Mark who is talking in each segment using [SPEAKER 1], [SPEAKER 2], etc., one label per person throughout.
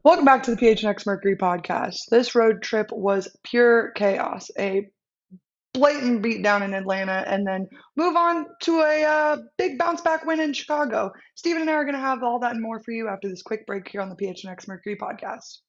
[SPEAKER 1] Welcome back to the PHNX Mercury podcast. This road trip was pure chaos, a blatant beatdown in Atlanta, and then move on to a big bounce back win in Chicago. Steven and I are going to have all that and more for you after this quick break here on the PHNX Mercury podcast.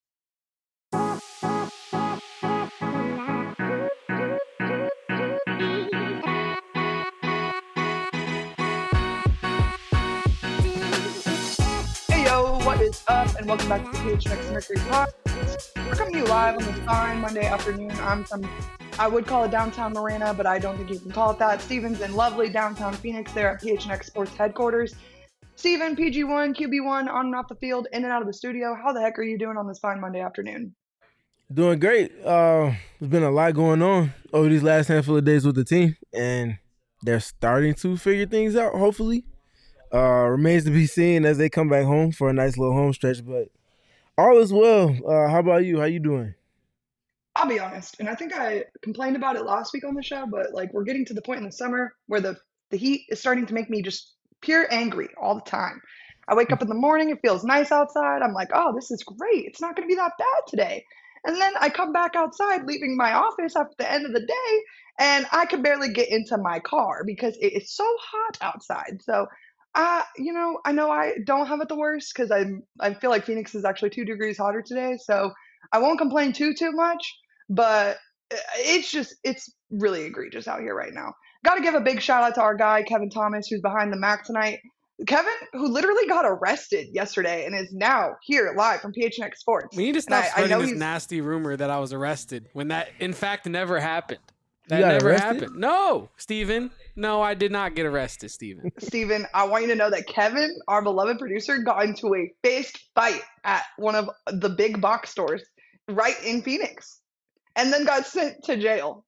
[SPEAKER 1] Hey yo, what is up? And welcome back to the PHNX Mercury podcast. We're coming to you live on this fine Monday afternoon. I would call it downtown Marina, but I don't think you can call it that. Steven's in lovely downtown Phoenix there at PHNX Sports headquarters. Steven, PG1, QB1, on and off the field, in and out of the studio. How the heck are you doing on this fine Monday afternoon?
[SPEAKER 2] Doing great. There's been a lot going on over these last handful of days with the team, and they're starting to figure things out, hopefully. Remains to be seen as they come back home for a nice little home stretch, but all is well. How about you? How you doing?
[SPEAKER 1] I'll be honest, and I think I complained about it last week on the show, but like we're getting to the point in the summer where the heat is starting to make me just pure angry all the time. I wake up in the morning, it feels nice outside. I'm like, oh, this is great. It's not going to be that bad today. And then I come back outside, leaving my office after the end of the day, and I can barely get into my car because it is so hot outside. So, I know I don't have it the worst because I feel like Phoenix is actually 2 degrees hotter today. So I won't complain too much, but it's really egregious out here right now. Got to give a big shout out to our guy Kevin Thomas, who's behind the Mac tonight. Kevin, who literally got arrested yesterday and is now here live from PHNX Sports.
[SPEAKER 3] We need to stop spreading this nasty rumor that I was arrested when that, in fact, never happened. That never happened. No, Steven. No, I did not get arrested, Steven.
[SPEAKER 1] Steven, I want you to know that Kevin, our beloved producer, got into a fist fight at one of the big box stores right in Phoenix and then got sent to jail.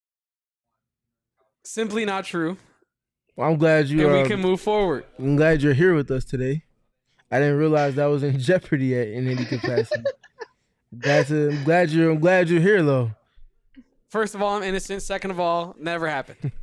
[SPEAKER 3] Simply not true.
[SPEAKER 2] Well, I'm glad
[SPEAKER 3] we can move forward.
[SPEAKER 2] I'm glad you're here with us today. I didn't realize that was in jeopardy yet in any capacity. I'm glad you're here though.
[SPEAKER 3] First of all, I'm innocent. Second of all, never happened.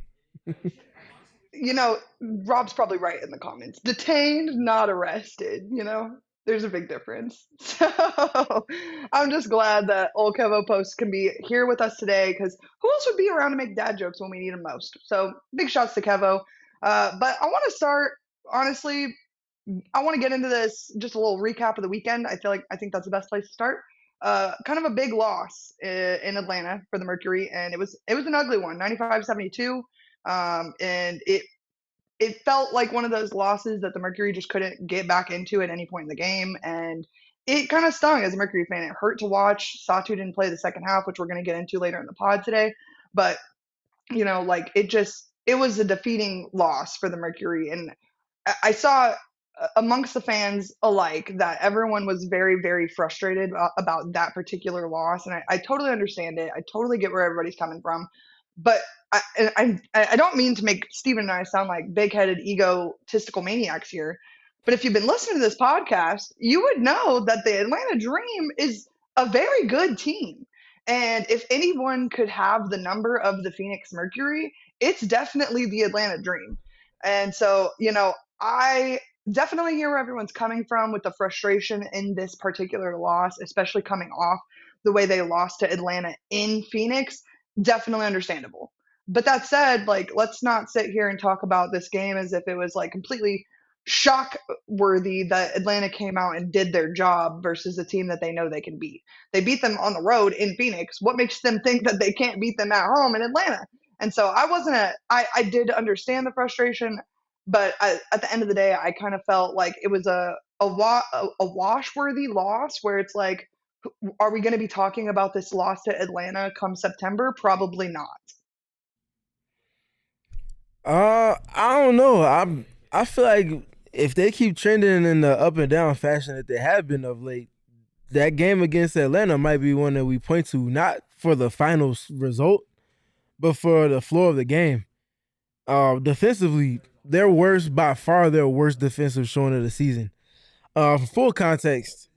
[SPEAKER 1] Rob's probably right in the comments. Detained, not arrested, There's a big difference. So I'm just glad that old Kevo Post can be here with us today because who else would be around to make dad jokes when we need them most? So big shots to Kevo. But I want to start, honestly, I want to get into this, just a little recap of the weekend. I think that's the best place to start. Kind of a big loss in Atlanta for the Mercury, and it was an ugly one, 95-72. And it felt like one of those losses that the Mercury just couldn't get back into at any point in the game. And it kind of stung as a Mercury fan. It hurt to watch. Satu didn't play the second half, which we're going to get into later in the pod today. But, it was a defeating loss for the Mercury. And I saw amongst the fans alike that everyone was very, very frustrated about that particular loss. And I totally understand it. I totally get where everybody's coming from. But I don't mean to make Steven and I sound like big-headed, egotistical maniacs here, but if you've been listening to this podcast, you would know that the Atlanta Dream is a very good team. And if anyone could have the number of the Phoenix Mercury, it's definitely the Atlanta Dream. And so, I definitely hear where everyone's coming from with the frustration in this particular loss, especially coming off the way they lost to Atlanta in Phoenix. Definitely understandable. But that said, let's not sit here and talk about this game as if it was completely shock worthy that Atlanta came out and did their job versus a team that they know they can beat. They beat them on the road in Phoenix. What makes them think that they can't beat them at home in Atlanta? And so I did understand the frustration, but at the end of the day, I kind of felt like it was a wash-worthy loss where it's like, are we going to be talking about this loss to Atlanta come September? Probably not.
[SPEAKER 2] I don't know. I feel like if they keep trending in the up and down fashion that they have been of late, that game against Atlanta might be one that we point to, not for the final result, but for the floor of the game. Defensively, by far their worst defensive showing of the season. For full context,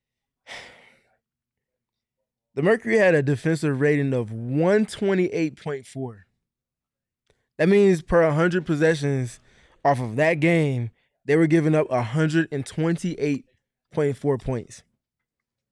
[SPEAKER 2] the Mercury had a defensive rating of 128.4. That means per 100 possessions off of that game, they were giving up 128.4 points.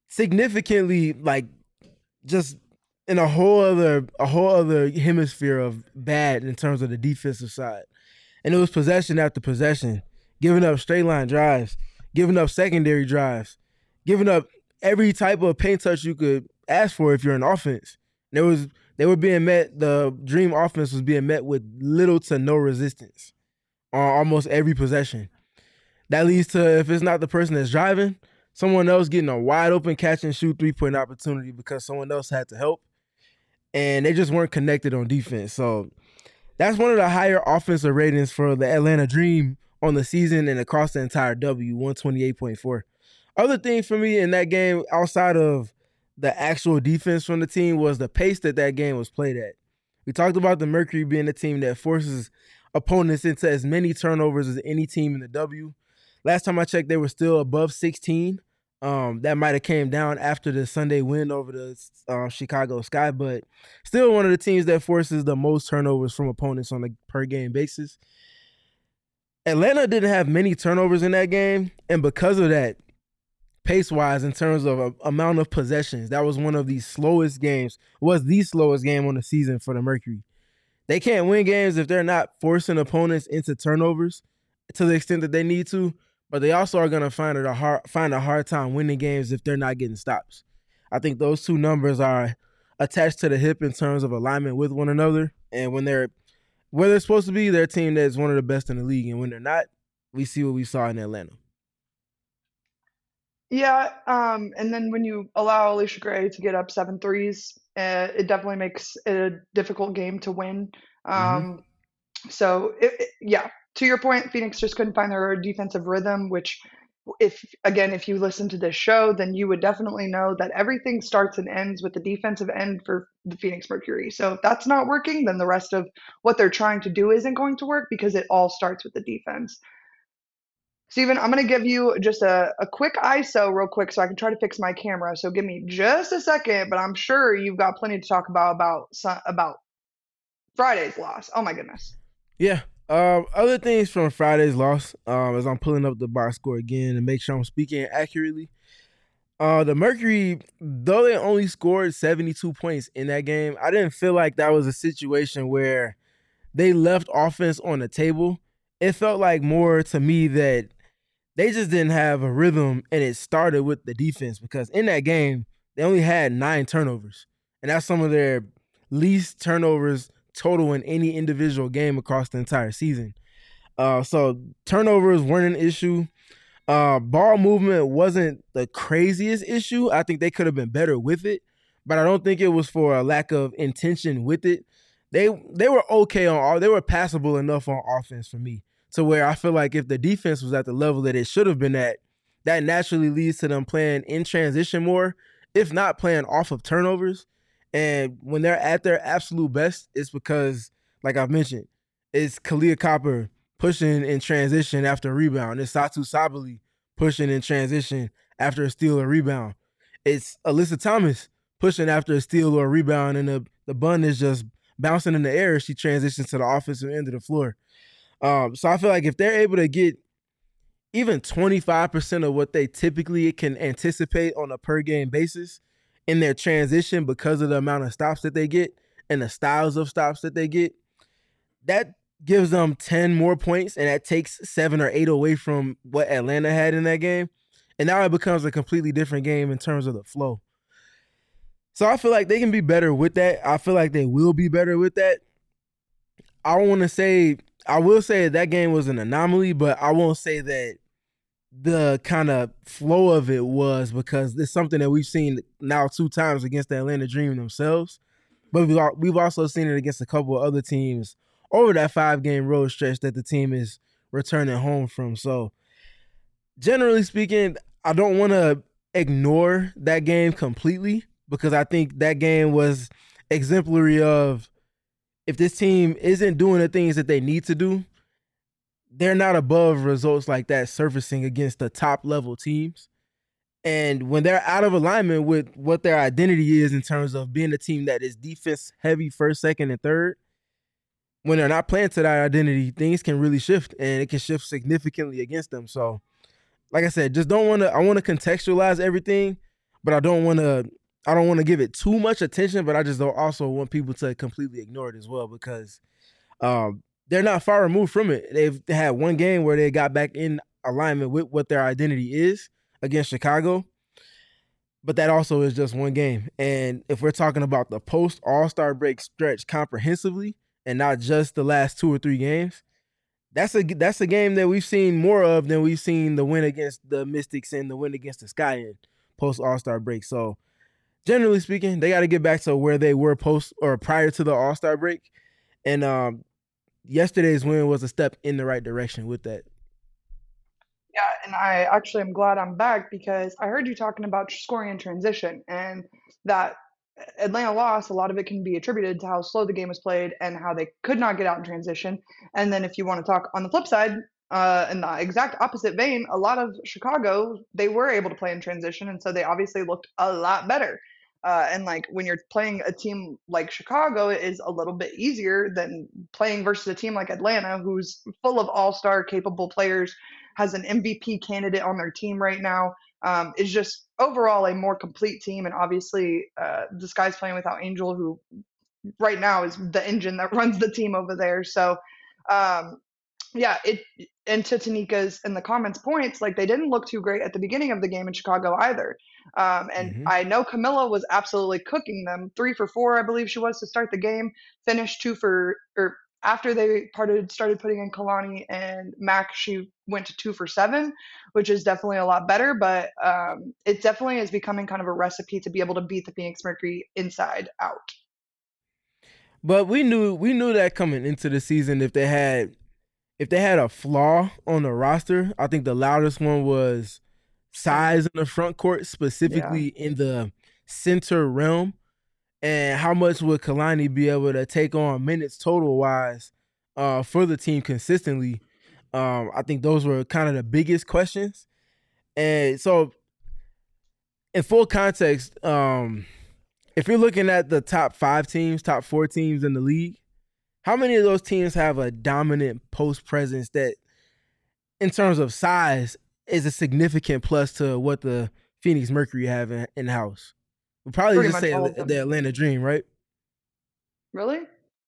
[SPEAKER 2] significantly like just in a whole other hemisphere of bad in terms of the defensive side. And it was possession after possession, giving up straight line drives, giving up secondary drives, giving up every type of paint touch you could ask for if you're an offense. They were being met. The dream offense was being met with little to no resistance on almost every possession. That leads to, if it's not the person that's driving, someone else getting a wide open catch and shoot 3-point opportunity because someone else had to help. And they just weren't connected on defense. So that's one of the higher offensive ratings for the Atlanta Dream on the season and across the entire W, 128.4. Other thing for me in that game, outside of the actual defense from the team, was the pace that game was played at. We talked about the Mercury being a team that forces opponents into as many turnovers as any team in the W. Last time I checked, they were still above 16. That might have came down after the Sunday win over the Chicago Sky, but still one of the teams that forces the most turnovers from opponents on a per-game basis. Atlanta didn't have many turnovers in that game, and because of that, pace-wise, in terms of amount of possessions, that was one of the slowest games, was the slowest game on the season for the Mercury. They can't win games if they're not forcing opponents into turnovers to the extent that they need to, but they also are going to find a hard time winning games if they're not getting stops. I think those two numbers are attached to the hip in terms of alignment with one another, and when they're where they're supposed to be, they're a team that's one of the best in the league, and when they're not, we see what we saw in Atlanta.
[SPEAKER 1] Yeah, and then when you allow Alicia Gray to get up 7 threes, it definitely makes it a difficult game to win. So, yeah, to your point, Phoenix just couldn't find their defensive rhythm, which if you listen to this show, then you would definitely know that everything starts and ends with the defensive end for the Phoenix Mercury. So if that's not working, then the rest of what they're trying to do isn't going to work because it all starts with the defense. Steven, I'm going to give you just a quick ISO real quick so I can try to fix my camera. So give me just a second, but I'm sure you've got plenty to talk about Friday's loss. Oh, my goodness.
[SPEAKER 2] Yeah. Other things from Friday's loss, as I'm pulling up the box score again and make sure I'm speaking accurately. The Mercury, though they only scored 72 points in that game, I didn't feel like that was a situation where they left offense on the table. It felt like more to me that they just didn't have a rhythm, and it started with the defense because in that game, they only had 9 turnovers. And that's some of their least turnovers total in any individual game across the entire season. So turnovers weren't an issue. Ball movement wasn't the craziest issue. I think they could have been better with it, but I don't think it was for a lack of intention with it. They were okay they were passable enough on offense for me, to where I feel like if the defense was at the level that it should have been at, that naturally leads to them playing in transition more, if not playing off of turnovers. And when they're at their absolute best, it's because, like I've mentioned, it's Kahleah Copper pushing in transition after a rebound. It's Satou Sabally pushing in transition after a steal or rebound. It's Alyssa Thomas pushing after a steal or a rebound, and the bun is just bouncing in the air as she transitions to the offensive end of the floor. So I feel like if they're able to get even 25% of what they typically can anticipate on a per game basis in their transition because of the amount of stops that they get and the styles of stops that they get, that gives them 10 more points, and that takes 7 or 8 away from what Atlanta had in that game. And now it becomes a completely different game in terms of the flow. So I feel like they can be better with that. I feel like they will be better with that. I will say that game was an anomaly, but I won't say that the kind of flow of it was, because it's something that we've seen now 2 times against the Atlanta Dream themselves. But we've also seen it against a couple of other teams over that 5-game road stretch that the team is returning home from. So generally speaking, I don't want to ignore that game completely, because I think that game was exemplary of, if this team isn't doing the things that they need to do, they're not above results like that surfacing against the top level teams. And when they're out of alignment with what their identity is in terms of being a team that is defense heavy first, second, and third, when they're not playing to that identity, things can really shift, and it can shift significantly against them. So like I said, I want to contextualize everything. but I don't want to give it too much attention, but I just don't also want people to completely ignore it as well because they're not far removed from it. They've had one game where they got back in alignment with what their identity is against Chicago, but that also is just one game. And if we're talking about the post All-Star break stretch comprehensively and not just the last 2 or 3 games, that's a game that we've seen more of than we've seen the win against the Mystics and the win against the Sky in post All-Star break. So generally speaking, they got to get back to where they were post or prior to the All-Star break. And yesterday's win was a step in the right direction with that.
[SPEAKER 1] Yeah, and I actually am glad I'm back because I heard you talking about scoring in transition and that Atlanta loss, a lot of it can be attributed to how slow the game was played and how they could not get out in transition. And then if you want to talk on the flip side, in the exact opposite vein, a lot of Chicago, they were able to play in transition, and so they obviously looked a lot better. And like when you're playing a team like Chicago, it is a little bit easier than playing versus a team like Atlanta, who's full of all-star capable players, has an MVP candidate on their team right now. Is just overall a more complete team, and obviously the Sky's playing without Angel, who right now is the engine that runs the team over there. So um, yeah, it and to Tanika's in the comments points, like they didn't look too great at the beginning of the game in Chicago either. And
[SPEAKER 2] Mm-hmm.
[SPEAKER 1] I know Camilla was absolutely cooking them, 3 for 4, I believe she was to start the game, finished 2 for or after they started putting in Kalani and Mac, she went to 2 for 7, which is definitely a lot better. But it definitely is becoming kind of a recipe to be able to beat the Phoenix Mercury inside out.
[SPEAKER 2] But we knew that coming into the season if they had a flaw on the roster, I think the loudest one was size in the front court,
[SPEAKER 1] Yeah,
[SPEAKER 2] specifically in the center realm. And how much would Kalani be able to take on minutes total wise for the team consistently? I think those were kind of the biggest questions. And so, in full context, if you're looking at the top 5 teams, top 4 teams in the league, how many of those teams have a dominant post presence that, in terms of size, is a significant plus to what the Phoenix Mercury have in house? We'll probably
[SPEAKER 1] pretty
[SPEAKER 2] just
[SPEAKER 1] much
[SPEAKER 2] say
[SPEAKER 1] all of
[SPEAKER 2] the
[SPEAKER 1] them.
[SPEAKER 2] Atlanta Dream, right?
[SPEAKER 1] Really?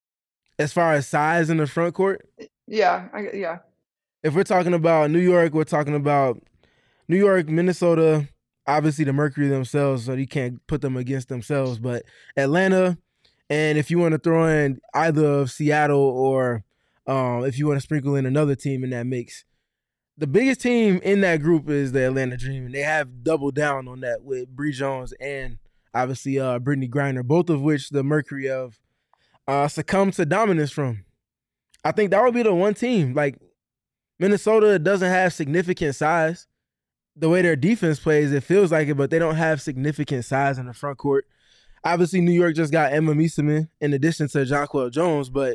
[SPEAKER 2] As far as size in the front court,
[SPEAKER 1] Yeah, yeah.
[SPEAKER 2] if we're talking about New York, we're talking about New York, Minnesota, obviously the Mercury themselves, so you can't put them against themselves, but Atlanta, and if you want to throw in either of Seattle or if you want to sprinkle in another team in that mix, the biggest team in that group is the Atlanta Dream, and they have doubled down on that with Bree Jones and obviously Brittany Griner, both of which the Mercury have succumbed to dominance from. I think that would be the one team. Like Minnesota doesn't have significant size. The way their defense plays, it feels like it, but they don't have significant size in the front court. Obviously, New York just got Emma Mieseman in addition to Jonquel Jones, but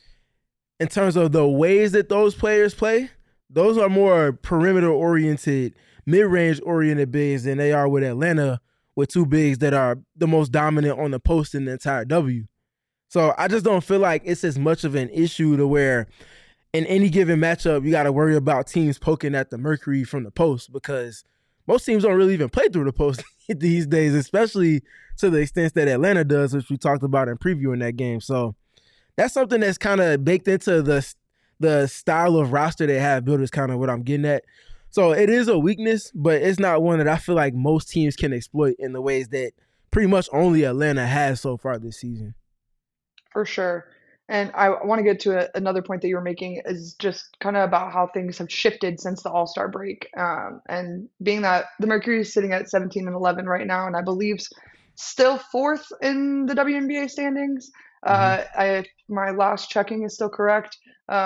[SPEAKER 2] in terms of the ways that those players play, those are more perimeter oriented, mid range oriented bigs than they are with Atlanta, with 2 bigs that are the most dominant on the post in the entire W. So I just don't feel like it's as much of an issue to where in any given matchup you got to worry about teams poking at the Mercury from the post because most teams don't really even play through the post these days, especially to the extent that Atlanta does, which we talked about in previewing that game. So that's something that's kind of baked into the style of roster they have built is kind of what I'm getting at. So it is a weakness, but it's not one that I feel like most teams can exploit in the ways that pretty much only Atlanta has so far this season.
[SPEAKER 1] For sure. And I want to get to another point that you were making is just kind of about how things have shifted since the All-Star break. And being that the Mercury is sitting at 17 and 11 right now, and I believe still fourth in the WNBA standings.
[SPEAKER 2] Mm-hmm.
[SPEAKER 1] My last checking is still correct.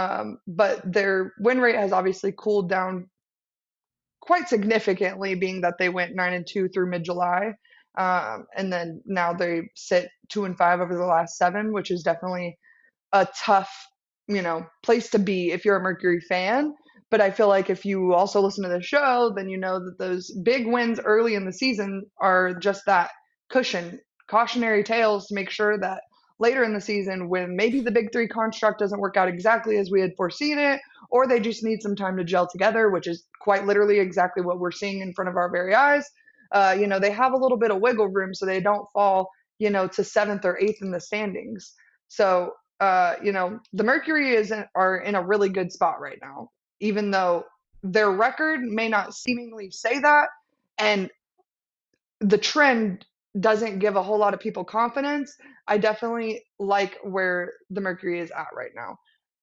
[SPEAKER 1] But their win rate has obviously cooled down quite significantly, being that they went 9-2 through mid-July. And then now they sit 2-5 over the last 7, which is definitely a tough, place to be if you're a Mercury fan. But I feel like if you also listen to the show, then you know that those big wins early in the season are just that cautionary tales to make sure that later in the season, when maybe the big 3 construct doesn't work out exactly as we had foreseen it, or they just need some time to gel together, which is quite literally exactly what we're seeing in front of our very eyes, They have a little bit of wiggle room so they don't fall, to seventh or eighth in the standings. So, the Mercury are in a really good spot right now, even though their record may not seemingly say that, and the trend doesn't give a whole lot of people confidence. I definitely like where the Mercury is at right now.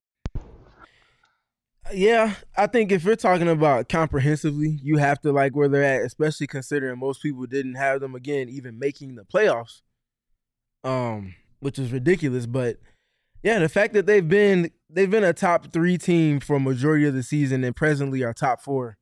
[SPEAKER 2] Yeah, I think if you're talking about comprehensively, you have to like where they're at, especially considering most people didn't have them again even making the playoffs. Which is ridiculous, but yeah, the fact that they've been a top 3 team for a majority of the season and presently are top 4.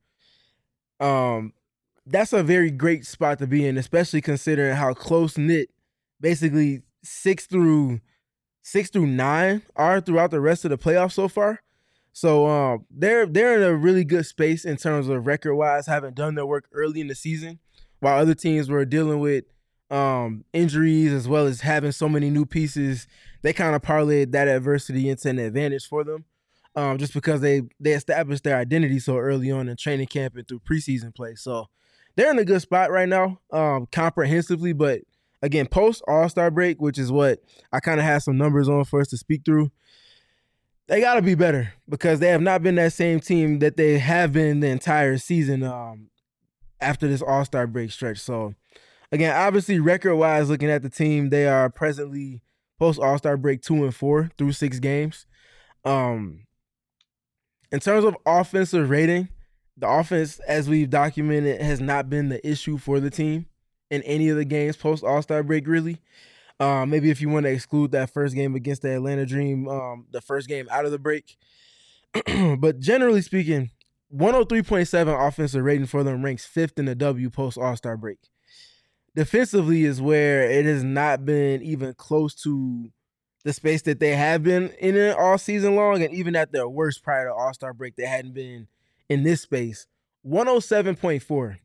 [SPEAKER 2] That's a very great spot to be in, especially considering how close knit basically 6 through 9 are throughout the rest of the playoffs so far. So they're in a really good space in terms of record wise, having done their work early in the season, while other teams were dealing with injuries as well as having so many new pieces. They kind of parlayed that adversity into an advantage for them, just because they established their identity so early on in training camp and through preseason play. So they're in a good spot right now, comprehensively. But again, post All-Star break, which is what I kind of have some numbers on for us to speak through, they got to be better because they have not been that same team that they have been the entire season after this All-Star break stretch. So again, obviously record-wise, looking at the team, they are presently post All-Star break 2-4 through 6 games. In terms of offensive rating, the offense, as we've documented, has not been the issue for the team in any of the games post All-Star break, really. Maybe if you want to exclude that first game against the Atlanta Dream, the first game out of the break. But generally speaking, 103.7 offensive rating for them ranks 5th in the W post All-Star break. Defensively is where it has not been even close to the space that they have been in it all season long, and even at their worst prior to All-Star break, they hadn't been in this space. 107.4.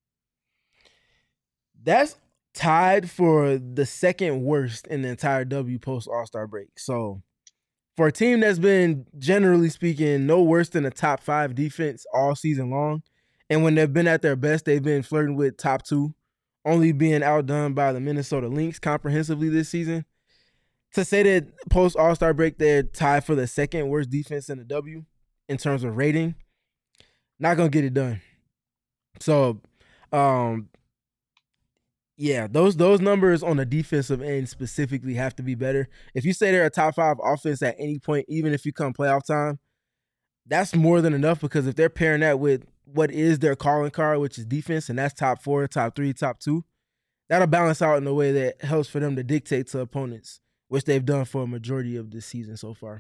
[SPEAKER 2] That's tied for the second worst in the entire W post All-Star break. So for a team that's been, generally speaking, no worse than a top 5 defense all season long, and when they've been at their best, they've been flirting with top 2, only being outdone by the Minnesota Lynx comprehensively this season. To say that post All-Star break they're tied for the second worst defense in the W in terms of rating, not gonna get it done. So, yeah, those numbers on the defensive end specifically have to be better. If you say they're a top 5 offense at any point, even if you come playoff time, that's more than enough, because if they're pairing that with what is their calling card, which is defense, and that's top 4, top 3, top 2, that'll balance out in a way that helps for them to dictate to opponents, which they've done for a majority of this season so far.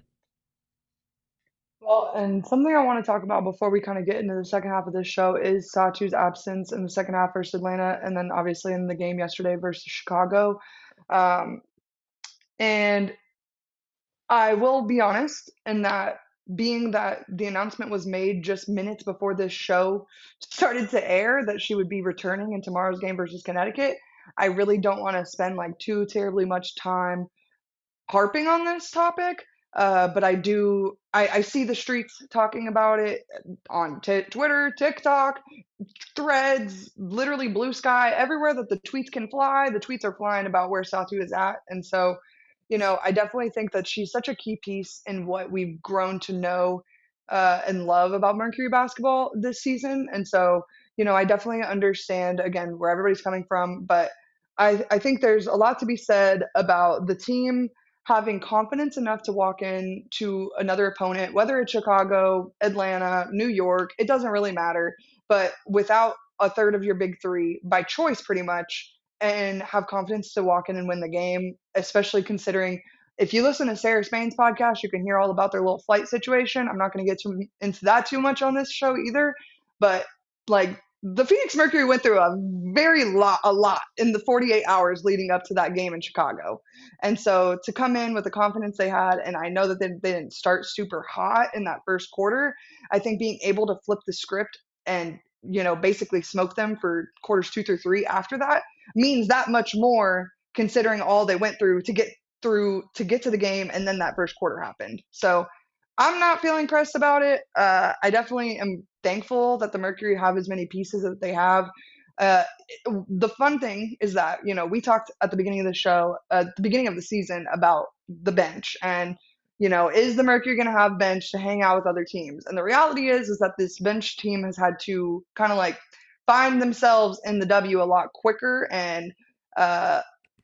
[SPEAKER 1] Well, and something I want to talk about before we kind of get into the second half of this show is Satu's absence in the second half versus Atlanta, and then obviously in the game yesterday versus Chicago. And I will be honest in that, being that the announcement was made just minutes before this show started to air that she would be returning in tomorrow's game versus Connecticut, I really don't want to spend like too terribly much time harping on this topic. But I see the streets talking about it on Twitter, TikTok, Threads, literally Blue Sky, everywhere that the tweets can fly. The tweets are flying about where Satu is at. And so, I definitely think that she's such a key piece in what we've grown to know and love about Mercury basketball this season. And so, I definitely understand, again, where everybody's coming from. But I think there's a lot to be said about the team having confidence enough to walk in to another opponent, whether it's Chicago, Atlanta, New York, it doesn't really matter, but without a third of your big 3 by choice pretty much, and have confidence to walk in and win the game, especially considering if you listen to Sarah Spain's podcast, you can hear all about their little flight situation. I'm not going to get into that too much on this show either, but like the Phoenix Mercury went through a lot in the 48 hours leading up to that game in Chicago. And so to come in with the confidence they had, and I know that they didn't start super hot in that first quarter, I think being able to flip the script and, basically smoke them for quarters 2 through 3 after that means that much more, considering all they went through to get to the game, and then that first quarter happened. So I'm not feeling pressed about it. I definitely am thankful that the Mercury have as many pieces that they have. Uh, the fun thing is that, we talked at the beginning of the show, at the beginning of the season, about the bench and, is the Mercury going to have bench to hang out with other teams? And the reality is that this bench team has had to kind of like find themselves in the W a lot quicker. And uh,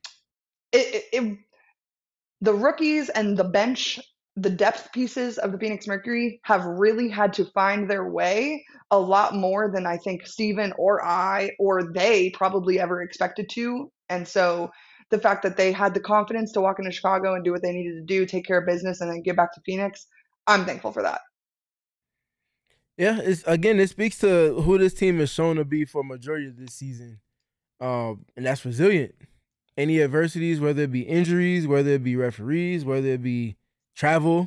[SPEAKER 1] it the rookies and the bench, the depth pieces of the Phoenix Mercury have really had to find their way a lot more than I think Steven or I or they probably ever expected to. And so the fact that they had the confidence to walk into Chicago and do what they needed to do, take care of business, and then get back to Phoenix, I'm thankful for that.
[SPEAKER 2] Yeah, it speaks to who this team has shown to be for a majority of this season, and that's resilient. Any adversities, whether it be injuries, whether it be referees, whether it be travel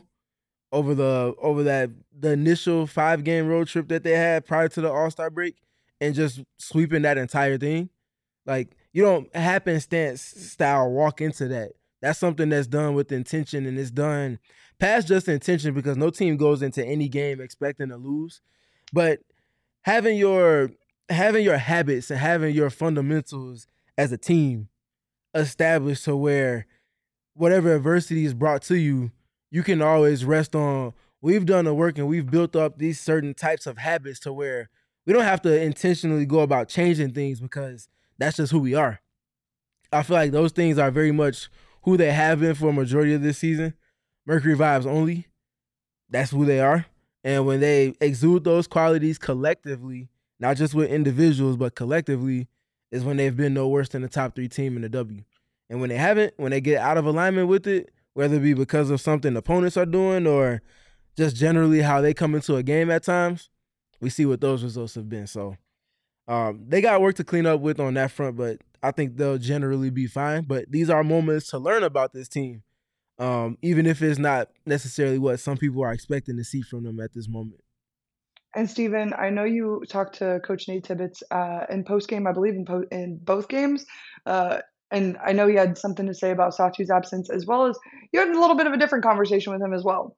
[SPEAKER 2] over the initial 5 game road trip that they had prior to the All-Star break, and just sweeping that entire thing. Like, you don't happenstance style walk into that. That's something that's done with intention, and it's done past just intention, because no team goes into any game expecting to lose. But having your habits and having your fundamentals as a team established to where whatever adversity is brought to you, you can always rest on, we've done the work and we've built up these certain types of habits to where we don't have to intentionally go about changing things, because that's just who we are. I feel like those things are very much who they have been for a majority of this season. Mercury vibes only. That's who they are. And when they exude those qualities collectively, not just with individuals, but collectively, is when they've been no worse than the top 3 team in the W. And when they haven't, when they get out of alignment with it, whether it be because of something opponents are doing or just generally how they come into a game at times, we see what those results have been. So they got work to clean up with on that front, but I think they'll generally be fine. But these are moments to learn about this team, even if it's not necessarily what some people are expecting to see from them at this moment.
[SPEAKER 1] And Steven, I know you talked to Coach Nate Tibbetts in post game, I believe in both games. And I know you had something to say about Satu's absence, as well as you had a little bit of a different conversation with him as well.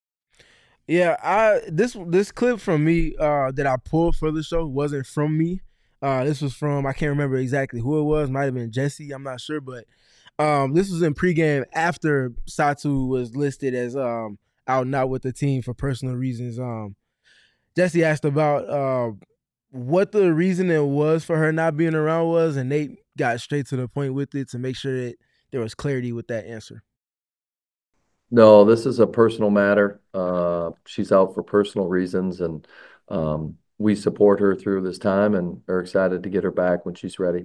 [SPEAKER 2] Yeah, this clip from me that I pulled for the show wasn't from me. This was from, I can't remember exactly who it was. Might have been Jesse. I'm not sure, but this was in pregame after Satu was listed as out and out with the team for personal reasons. Jesse asked about what the reasoning was for her not being around was, and Nate got straight to the point with it to make sure that there was clarity with that answer.
[SPEAKER 4] No, this is a personal matter. She's out for personal reasons, and we support her through this time and are excited to get her back when she's ready.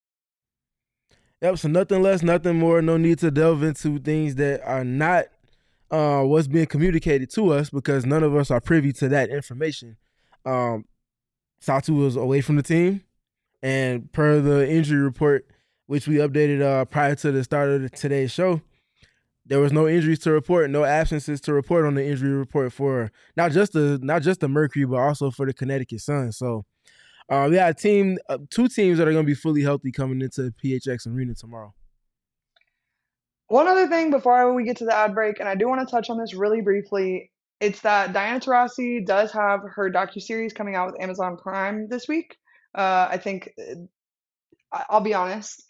[SPEAKER 2] Yep, so nothing less, nothing more. No need to delve into things that are not what's being communicated to us, because none of us are privy to that information. Satu was away from the team, and per the injury report, which we updated prior to the start of today's show, there was no injuries to report, no absences to report on the injury report for not just the Mercury, but also for the Connecticut Sun. So we got two teams that are going to be fully healthy coming into PHX Arena tomorrow.
[SPEAKER 1] One other thing before we get to the ad break, and I do want to touch on this really briefly, it's that Diana Taurasi does have her docuseries coming out with Amazon Prime this week. I think, I'll be honest,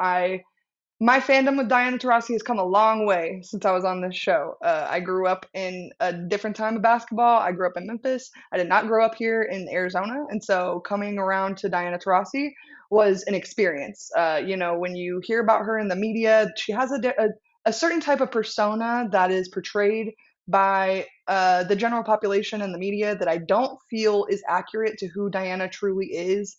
[SPEAKER 1] my fandom with Diana Taurasi has come a long way since I was on this show. I grew up in a different time of basketball. I grew up in Memphis. I did not grow up here in Arizona. And so coming around to Diana Taurasi was an experience. When you hear about her in the media, she has a certain type of persona that is portrayed by the general population and the media that I don't feel is accurate to who Diana truly is.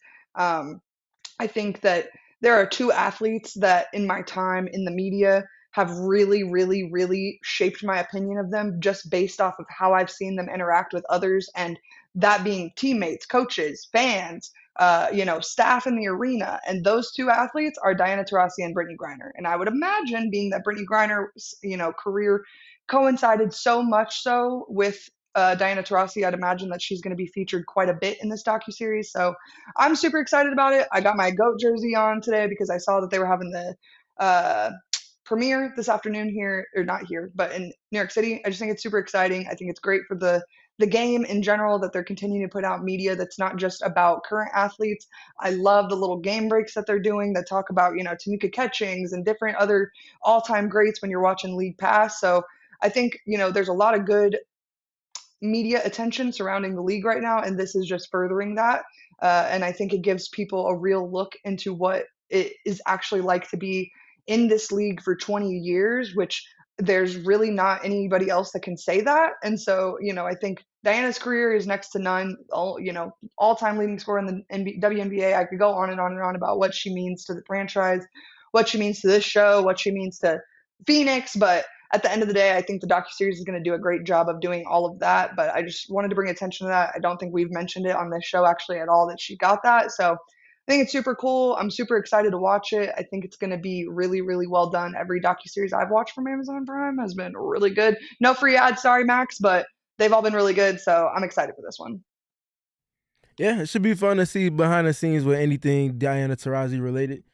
[SPEAKER 1] I think that there are 2 athletes that in my time in the media have really, really, really shaped my opinion of them just based off of how I've seen them interact with others, and that being teammates, coaches, fans, staff in the arena. And those 2 athletes are Diana Taurasi and Brittney Griner. And I would imagine, being that Brittney Griner's, career coincided so much so with Diana Taurasi, I'd imagine that she's going to be featured quite a bit in this docuseries. So I'm super excited about it. I got my GOAT jersey on today because I saw that they were having the premiere this afternoon here, or not here, but in New York City. I just think it's super exciting. I think it's great for the the game in general, that they're continuing to put out media that's not just about current athletes. I love the little game breaks that they're doing that talk about, Tamika Catchings and different other all-time greats when you're watching League Pass. So I think, there's a lot of good media attention surrounding the league right now, and this is just furthering that. And I think it gives people a real look into what it is actually like to be in this league for 20 years, which there's really not anybody else that can say that. And so, I think Diana's career is next to none. All-time leading scorer in the WNBA. I could go on and on and on about what she means to the franchise, what she means to this show, what she means to Phoenix, but at the end of the day, I think the docuseries is going to do a great job of doing all of that. But I just wanted to bring attention to that. I don't think we've mentioned it on this show actually at all that she got that. So I think it's super cool. I'm super excited to watch it. I think it's going to be really, really well done. Every docuseries I've watched from Amazon Prime has been really good. No free ads, sorry, Max, but they've all been really good. So I'm excited for this one.
[SPEAKER 2] Yeah, it should be fun to see behind the scenes with anything Diana Taurasi related.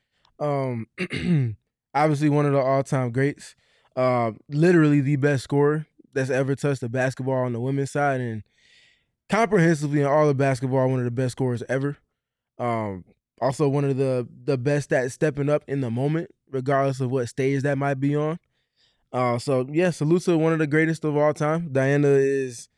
[SPEAKER 2] Obviously one of the all-time greats. Literally the best scorer that's ever touched the basketball on the women's side, and comprehensively in all of basketball, one of the best scorers ever. Also one of the best at stepping up in the moment, regardless of what stage that might be on. So yeah, salute to one of the greatest of all time. Diana is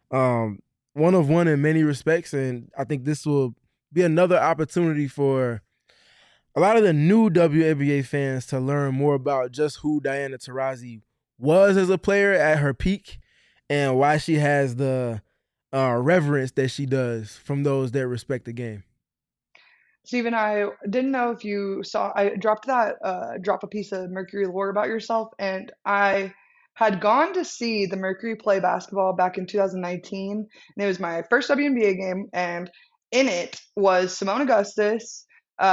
[SPEAKER 2] one of one in many respects, and I think this will be another opportunity for a lot of the new WNBA fans to learn more about just who Diana Taurasi was as a player at her peak and why she has the reverence that she does from those that respect the game.
[SPEAKER 1] Stephen, I didn't know if you saw, I dropped that, drop a piece of Mercury lore about yourself, and I had gone to see the Mercury play basketball back in 2019, and it was my first WNBA game, and in it was Simone Augustus,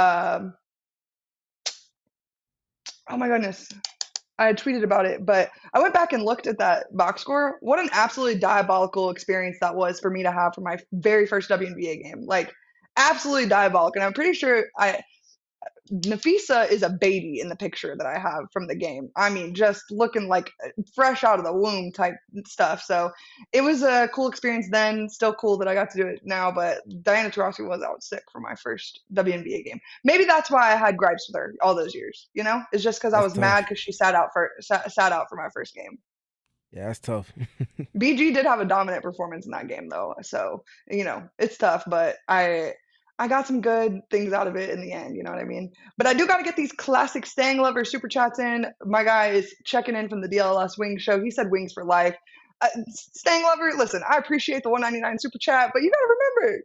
[SPEAKER 1] oh my goodness, I had tweeted about it, but I went back and looked at that box score. What an absolutely diabolical experience that was for me to have for my very first WNBA game. Like, absolutely diabolical. And I'm pretty sure Nafisa is a baby in the picture that I have from the game. I mean, just looking like fresh out of the womb type stuff. So it was a cool experience then. Still cool that I got to do it now. But Diana Taurasi was out sick for my first WNBA game. Maybe that's why I had gripes with her all those years. It's just because I was mad because she sat out for my first game.
[SPEAKER 2] Yeah, that's tough.
[SPEAKER 1] BG did have a dominant performance in that game though. So it's tough, but I got some good things out of it in the end, you know what I mean? But I do got to get these classic Stang Lover super chats in. My guy is checking in from the DLS Wings show. He said wings for life. Stang Lover, listen, I appreciate the $1.99 super chat, but you got to remember,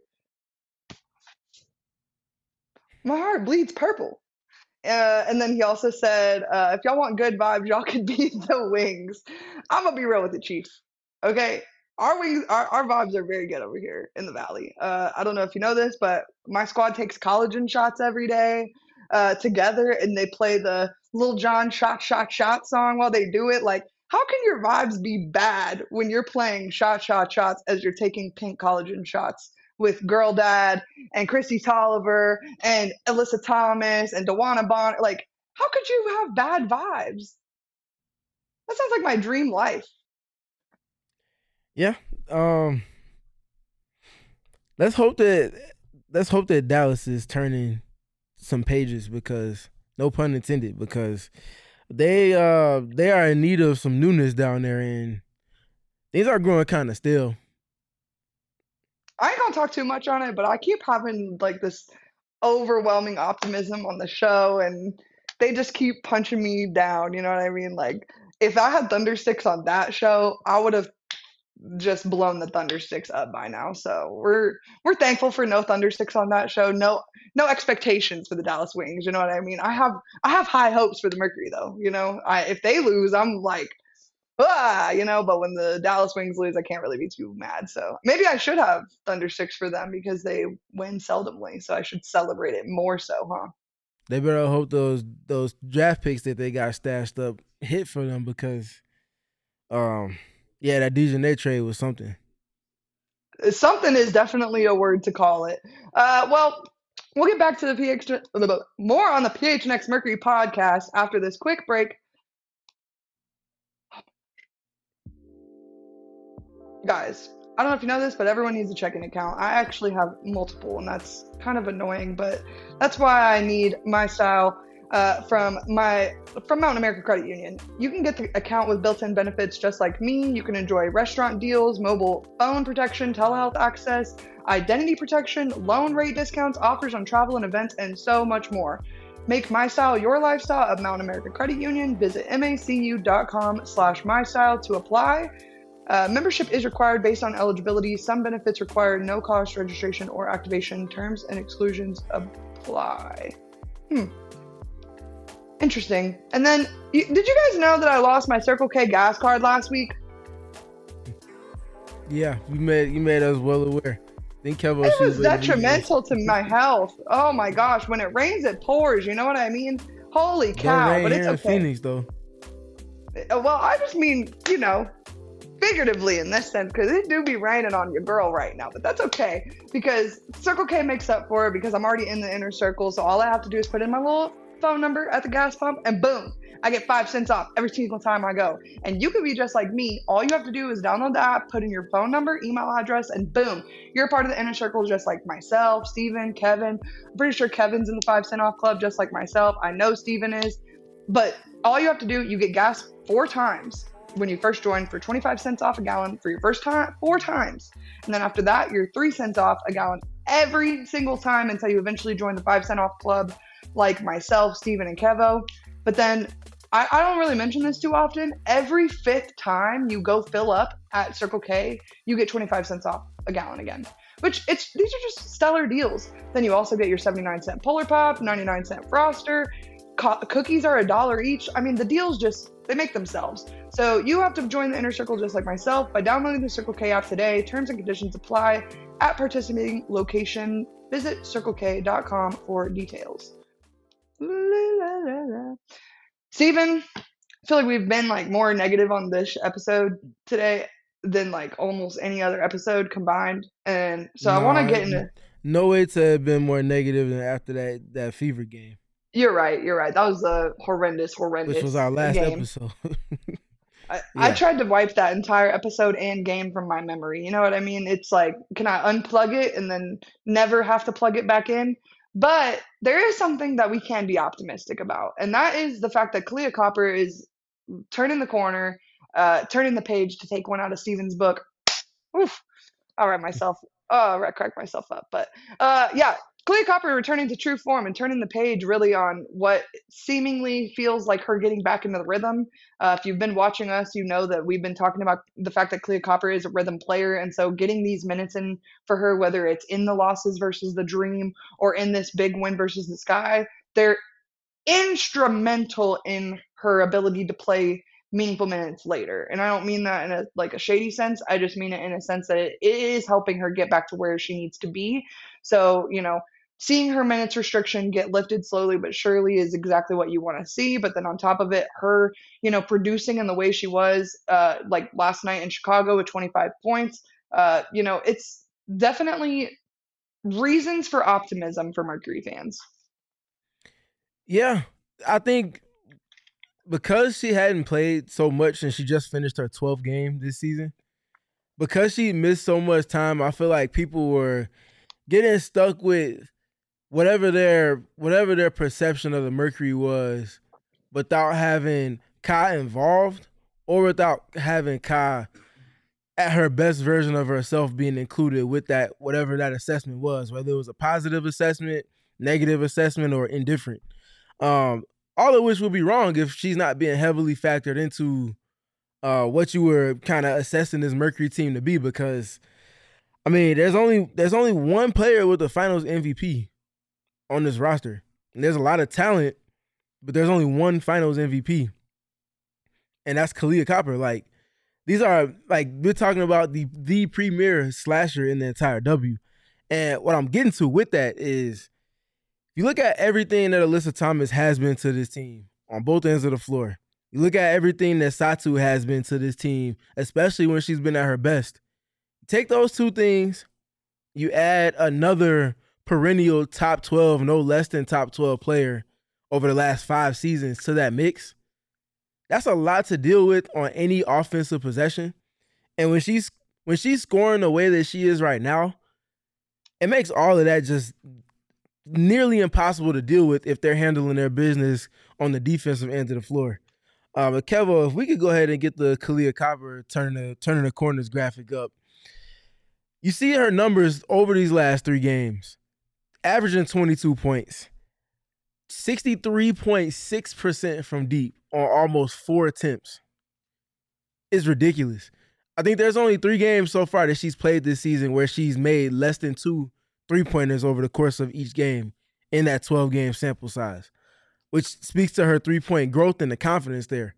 [SPEAKER 1] my heart bleeds purple. And then he also said, if y'all want good vibes, y'all could be the Wings. I'm going to be real with the Chief, okay? Our wings, our vibes are very good over here in the Valley. I don't know if you know this, but my squad takes collagen shots every day together, and they play the Lil Jon shot, shot, shot song while they do it. Like, how can your vibes be bad when you're playing shot, shot, shots as you're taking pink collagen shots with Girl Dad and Chrissy Tolliver and Alyssa Thomas and Dewana Bonner? Like, how could you have bad vibes? That sounds like my dream life.
[SPEAKER 2] Yeah. Let's hope that Dallas is turning some pages, because no pun intended, because they are in need of some newness down there, and things are growing kind of stale.
[SPEAKER 1] I ain't gonna talk too much on it, but I keep having like this overwhelming optimism on the show, and they just keep punching me down. You know what I mean? Like, if I had Thundersticks on that show, I would have just blown the Thundersticks up by now. So we're thankful for no Thundersticks on that show. No expectations for the Dallas Wings. You know what I mean? I have high hopes for the Mercury though. If they lose, I'm like, but when the Dallas Wings lose, I can't really be too mad. So maybe I should have Thundersticks for them because they win seldomly. So I should celebrate it more so, huh?
[SPEAKER 2] They better hope those draft picks that they got stashed up hit for them, because yeah, that DeJounte trade was something.
[SPEAKER 1] Something is definitely a word to call it. Well, we'll get back to the more on the PHNX Mercury podcast after this quick break. Guys, I don't know if you know this, but everyone needs a checking account. I actually have multiple, and that's kind of annoying, but that's why I need MyStyle from Mountain America Credit Union. You can get the account with built-in benefits just like me. You can enjoy restaurant deals, mobile phone protection, telehealth access, identity protection, loan rate discounts, offers on travel and events, and so much more. Make MyStyle your lifestyle at Mountain America Credit Union. Visit macu.com/MyStyle to apply. Membership is required based on eligibility. Some benefits require no cost registration or activation. Terms and exclusions apply. Interesting. And then, did you guys know that I lost my Circle K gas card last week?
[SPEAKER 2] Yeah, you made us well aware. I think Kevo,
[SPEAKER 1] it was detrimental to my health. Oh my gosh, when it rains, it pours. You know what I mean? Holy cow!
[SPEAKER 2] Don't rain
[SPEAKER 1] but it's
[SPEAKER 2] here
[SPEAKER 1] okay.
[SPEAKER 2] in Phoenix, though.
[SPEAKER 1] Well, I just mean, figuratively in this sense, because it do be raining on your girl right now, but that's okay because Circle K makes up for it because I'm already in the inner circle. So all I have to do is put in my little phone number at the gas pump and boom, I get 5 cents off every single time I go. And you can be just like me. All you have to do is download the app, put in your phone number, email address, and boom, you're a part of the inner circle just like myself, Steven, Kevin. I'm pretty sure Kevin's in the 5 cent off club just like myself. I know Steven is. But all you have to do, you get gas 4 times when you first join for 25 cents off a gallon for your first time, 4 times. And then after that, you're 3 cents off a gallon every single time until you eventually join the 5 cent off club like myself, Steven, and Kevo. But then I don't really mention this too often. Every 5th time you go fill up at Circle K, you get 25 cents off a gallon again. These are just stellar deals. Then you also get your 79-cent Polar Pop, 99-cent Froster. Cookies are $1 each. I mean, the deals they make themselves. So you have to join the inner circle just like myself by downloading the Circle K app today. Terms and conditions apply at participating location. Visit circlek.com for details. Steven, I feel like we've been more negative on this episode today than almost any other episode combined. And so I want to get into...
[SPEAKER 2] No way to have been more negative than after that Fever game.
[SPEAKER 1] You're right. That was a horrendous
[SPEAKER 2] Which was our last
[SPEAKER 1] game.
[SPEAKER 2] Episode.
[SPEAKER 1] I tried to wipe that entire episode and game from my memory. You know what I mean? It's can I unplug it and then never have to plug it back in? But there is something that we can be optimistic about, and that is the fact that Kahleah Copper is turning the corner, turning the page to take one out of Steven's book. Oof! I'll crack myself up. But yeah, Kahleah Copper returning to true form and turning the page really on what seemingly feels like her getting back into the rhythm. If you've been watching us, you know that we've been talking about the fact that Kahleah Copper is a rhythm player. And so getting these minutes in for her, whether it's in the losses versus the dream or in this big win versus the sky, they're instrumental in her ability to play meaningful minutes later. And I don't mean that in a shady sense. I just mean it in a sense that it is helping her get back to where she needs to be. So, seeing her minutes restriction get lifted slowly but surely is exactly what you want to see. But then on top of it, her, producing in the way she was last night in Chicago with 25 points, it's definitely reasons for optimism for Mercury fans.
[SPEAKER 2] Yeah, I think because she hadn't played so much and she just finished her 12th game this season, because she missed so much time, I feel like people were getting stuck with whatever their perception of the Mercury was without having Kai involved or without having Kai at her best version of herself being included with that, whatever that assessment was, whether it was a positive assessment, negative assessment, or indifferent. All of which would be wrong if she's not being heavily factored into what you were kind of assessing this Mercury team to be, because I mean, there's only one player with the Finals MVP on this roster. And there's a lot of talent, but there's only one Finals MVP. And that's Kahleah Copper. These are we're talking about the premier slasher in the entire W. And what I'm getting to with that is you look at everything that Alyssa Thomas has been to this team on both ends of the floor. You look at everything that Satu has been to this team, especially when she's been at her best. Take those two things, you add another perennial top 12, no less than top 12 player over the last 5 seasons to that mix. That's a lot to deal with on any offensive possession. And when when she's scoring the way that she is right now, it makes all of that just nearly impossible to deal with if they're handling their business on the defensive end of the floor. But Kevo, if we could go ahead and get the Kahleah Copper turning the corners graphic up, you see her numbers over these last 3 games, averaging 22 points, 63.6% from deep on almost 4 attempts. It's ridiculous. I think there's only 3 games so far that she's played this season where she's made less than 2 3-pointers over the course of each game in that 12-game sample size, which speaks to her 3-point growth and the confidence there.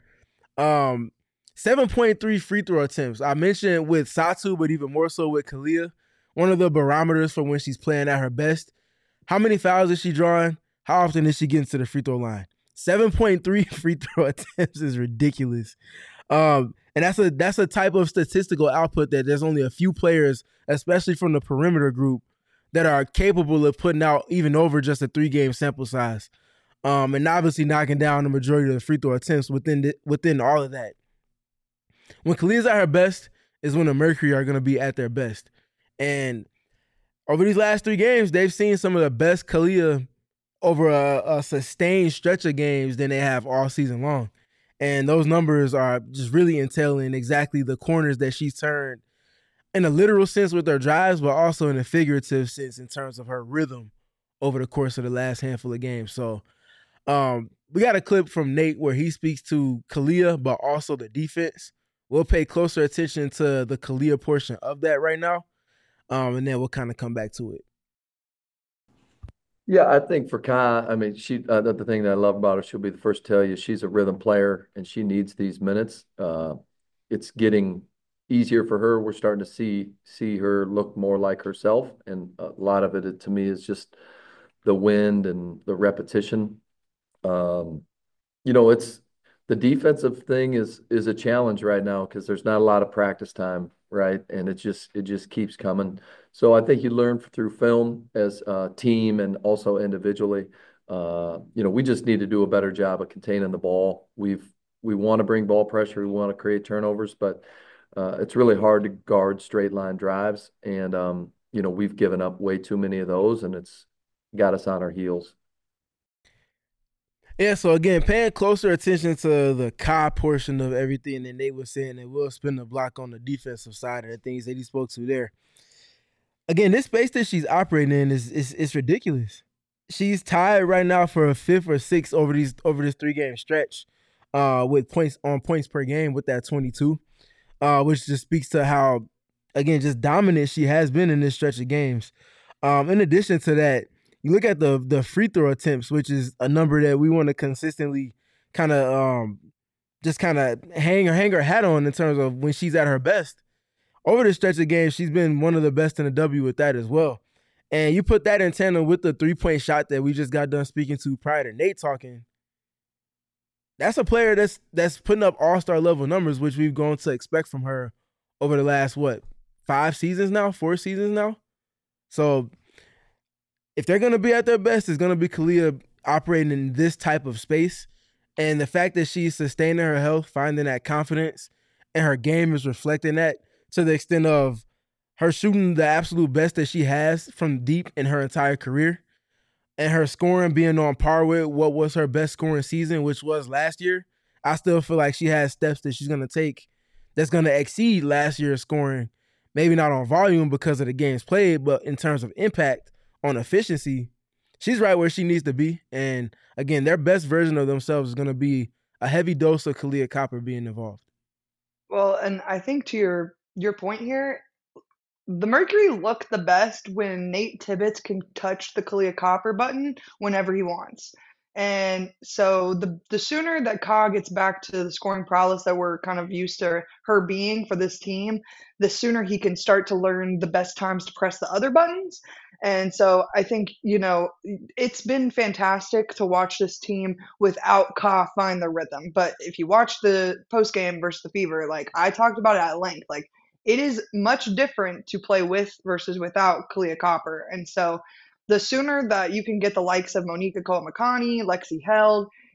[SPEAKER 2] 7.3 free throw attempts. I mentioned with Satou, but even more so with Kahleah, one of the barometers for when she's playing at her best. How many fouls is she drawing? How often is she getting to the free throw line? 7.3 free throw attempts is ridiculous. And that's a type of statistical output that there's only a few players, especially from the perimeter group, that are capable of putting out even over just a 3-game sample size. And obviously knocking down the majority of the free throw attempts within all of that. When Kahleah's at her best is when the Mercury are going to be at their best. And over these last 3 games, they've seen some of the best Kahleah over a sustained stretch of games than they have all season long. And those numbers are just really entailing exactly the corners that she's turned in a literal sense with her drives, but also in a figurative sense in terms of her rhythm over the course of the last handful of games. So we got a clip from Nate where he speaks to Kahleah, but also the defense. We'll pay closer attention to the Kahleah portion of that right now, and then we'll kind of come back to it.
[SPEAKER 4] Yeah, I think for Kai, I mean, the thing that I love about her, she'll be the first to tell you she's a rhythm player and she needs these minutes. It's getting easier for her. We're starting to see her look more like herself, and a lot of it to me is just the wind and the repetition. It's the defensive thing is a challenge right now because there's not a lot of practice time, right? And it just keeps coming. So I think you learn through film as a team and also individually. We just need to do a better job of containing the ball. We want to bring ball pressure, we want to create turnovers, but it's really hard to guard straight line drives. And we've given up way too many of those, and it's got us on our heels.
[SPEAKER 2] Yeah, so again, paying closer attention to the Kai portion of everything that Nate was saying, and we'll spin the block on the defensive side of the things that he spoke to there. Again, this space that she's operating in is ridiculous. She's tied right now for a 5th or 6th over this 3-game stretch, with points per game with that 22, which just speaks to how, again, just dominant she has been in this stretch of games. In addition to that, you look at the free throw attempts, which is a number that we want to consistently kind of hang her hat on in terms of when she's at her best. Over the stretch of games, she's been one of the best in the W with that as well. And you put that in tandem with the 3-point shot that we just got done speaking to prior to Nate talking. That's a player that's putting up all-star level numbers, which we've grown to expect from her over the last, 4 seasons now? So if they're going to be at their best, it's going to be Kahleah operating in this type of space. And the fact that she's sustaining her health, finding that confidence, and her game is reflecting that to the extent of her shooting the absolute best that she has from deep in her entire career, and her scoring being on par with what was her best scoring season, which was last year. I still feel like she has steps that she's going to take that's going to exceed last year's scoring. Maybe not on volume because of the games played, but in terms of impact on efficiency, she's right where she needs to be. And again, their best version of themselves is going to be a heavy dose of Kahleah Copper being involved.
[SPEAKER 1] Well, and I think to your point here, the Mercury look the best when Nate Tibbetts can touch the Kahleah Copper button whenever he wants. And so the sooner that Ka gets back to the scoring prowess that we're kind of used to her being for this team, the sooner he can start to learn the best times to press the other buttons. And so I think, it's been fantastic to watch this team without Ka find the rhythm. But if you watch the post game versus the Fever, like I talked about it at length, like it is much different to play with versus without Kahleah Copper. And so the sooner that you can get the likes of Monica Cole-McConney, Lexi Held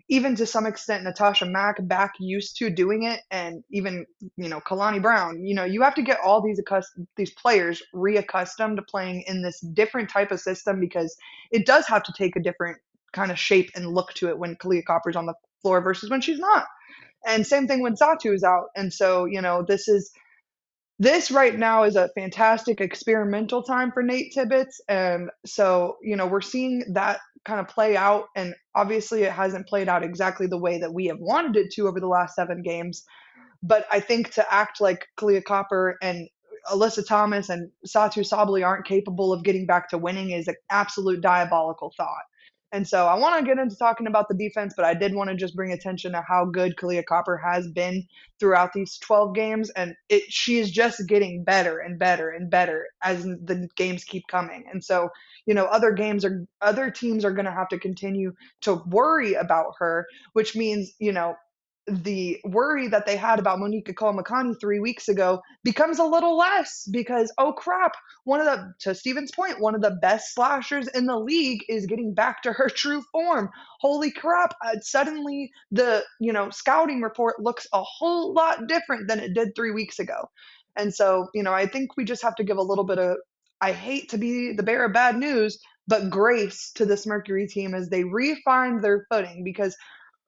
[SPEAKER 1] even to some extent Natasha Mack back used to doing it, and even Kalani Brown. You have to get all these players reaccustomed to playing in this different type of system, because it does have to take a different kind of shape and look to it when Kahleah Copper's on the floor versus when she's not. And same thing when Satou is out. And so, this right now is a fantastic experimental time for Nate Tibbetts. And so, we're seeing that kind of play out. And obviously, it hasn't played out exactly the way that we have wanted it to over the last 7 games. But I think to act like Kahleah Copper and Alyssa Thomas and Satou Sabally aren't capable of getting back to winning is an absolute diabolical thought. And so I want to get into talking about the defense, but I did want to just bring attention to how good Kahleah Copper has been throughout these 12 games. And she is just getting better and better and better as the games keep coming. And so, other teams are going to have to continue to worry about her, which means, the worry that they had about Monika Koamakani 3 weeks ago becomes a little less, because, oh crap, to Steven's point, one of the best slashers in the league is getting back to her true form. Holy crap. Suddenly the, scouting report looks a whole lot different than it did 3 weeks ago. And so, I think we just have to give a little bit of, I hate to be the bearer of bad news, but grace to this Mercury team as they refine their footing, because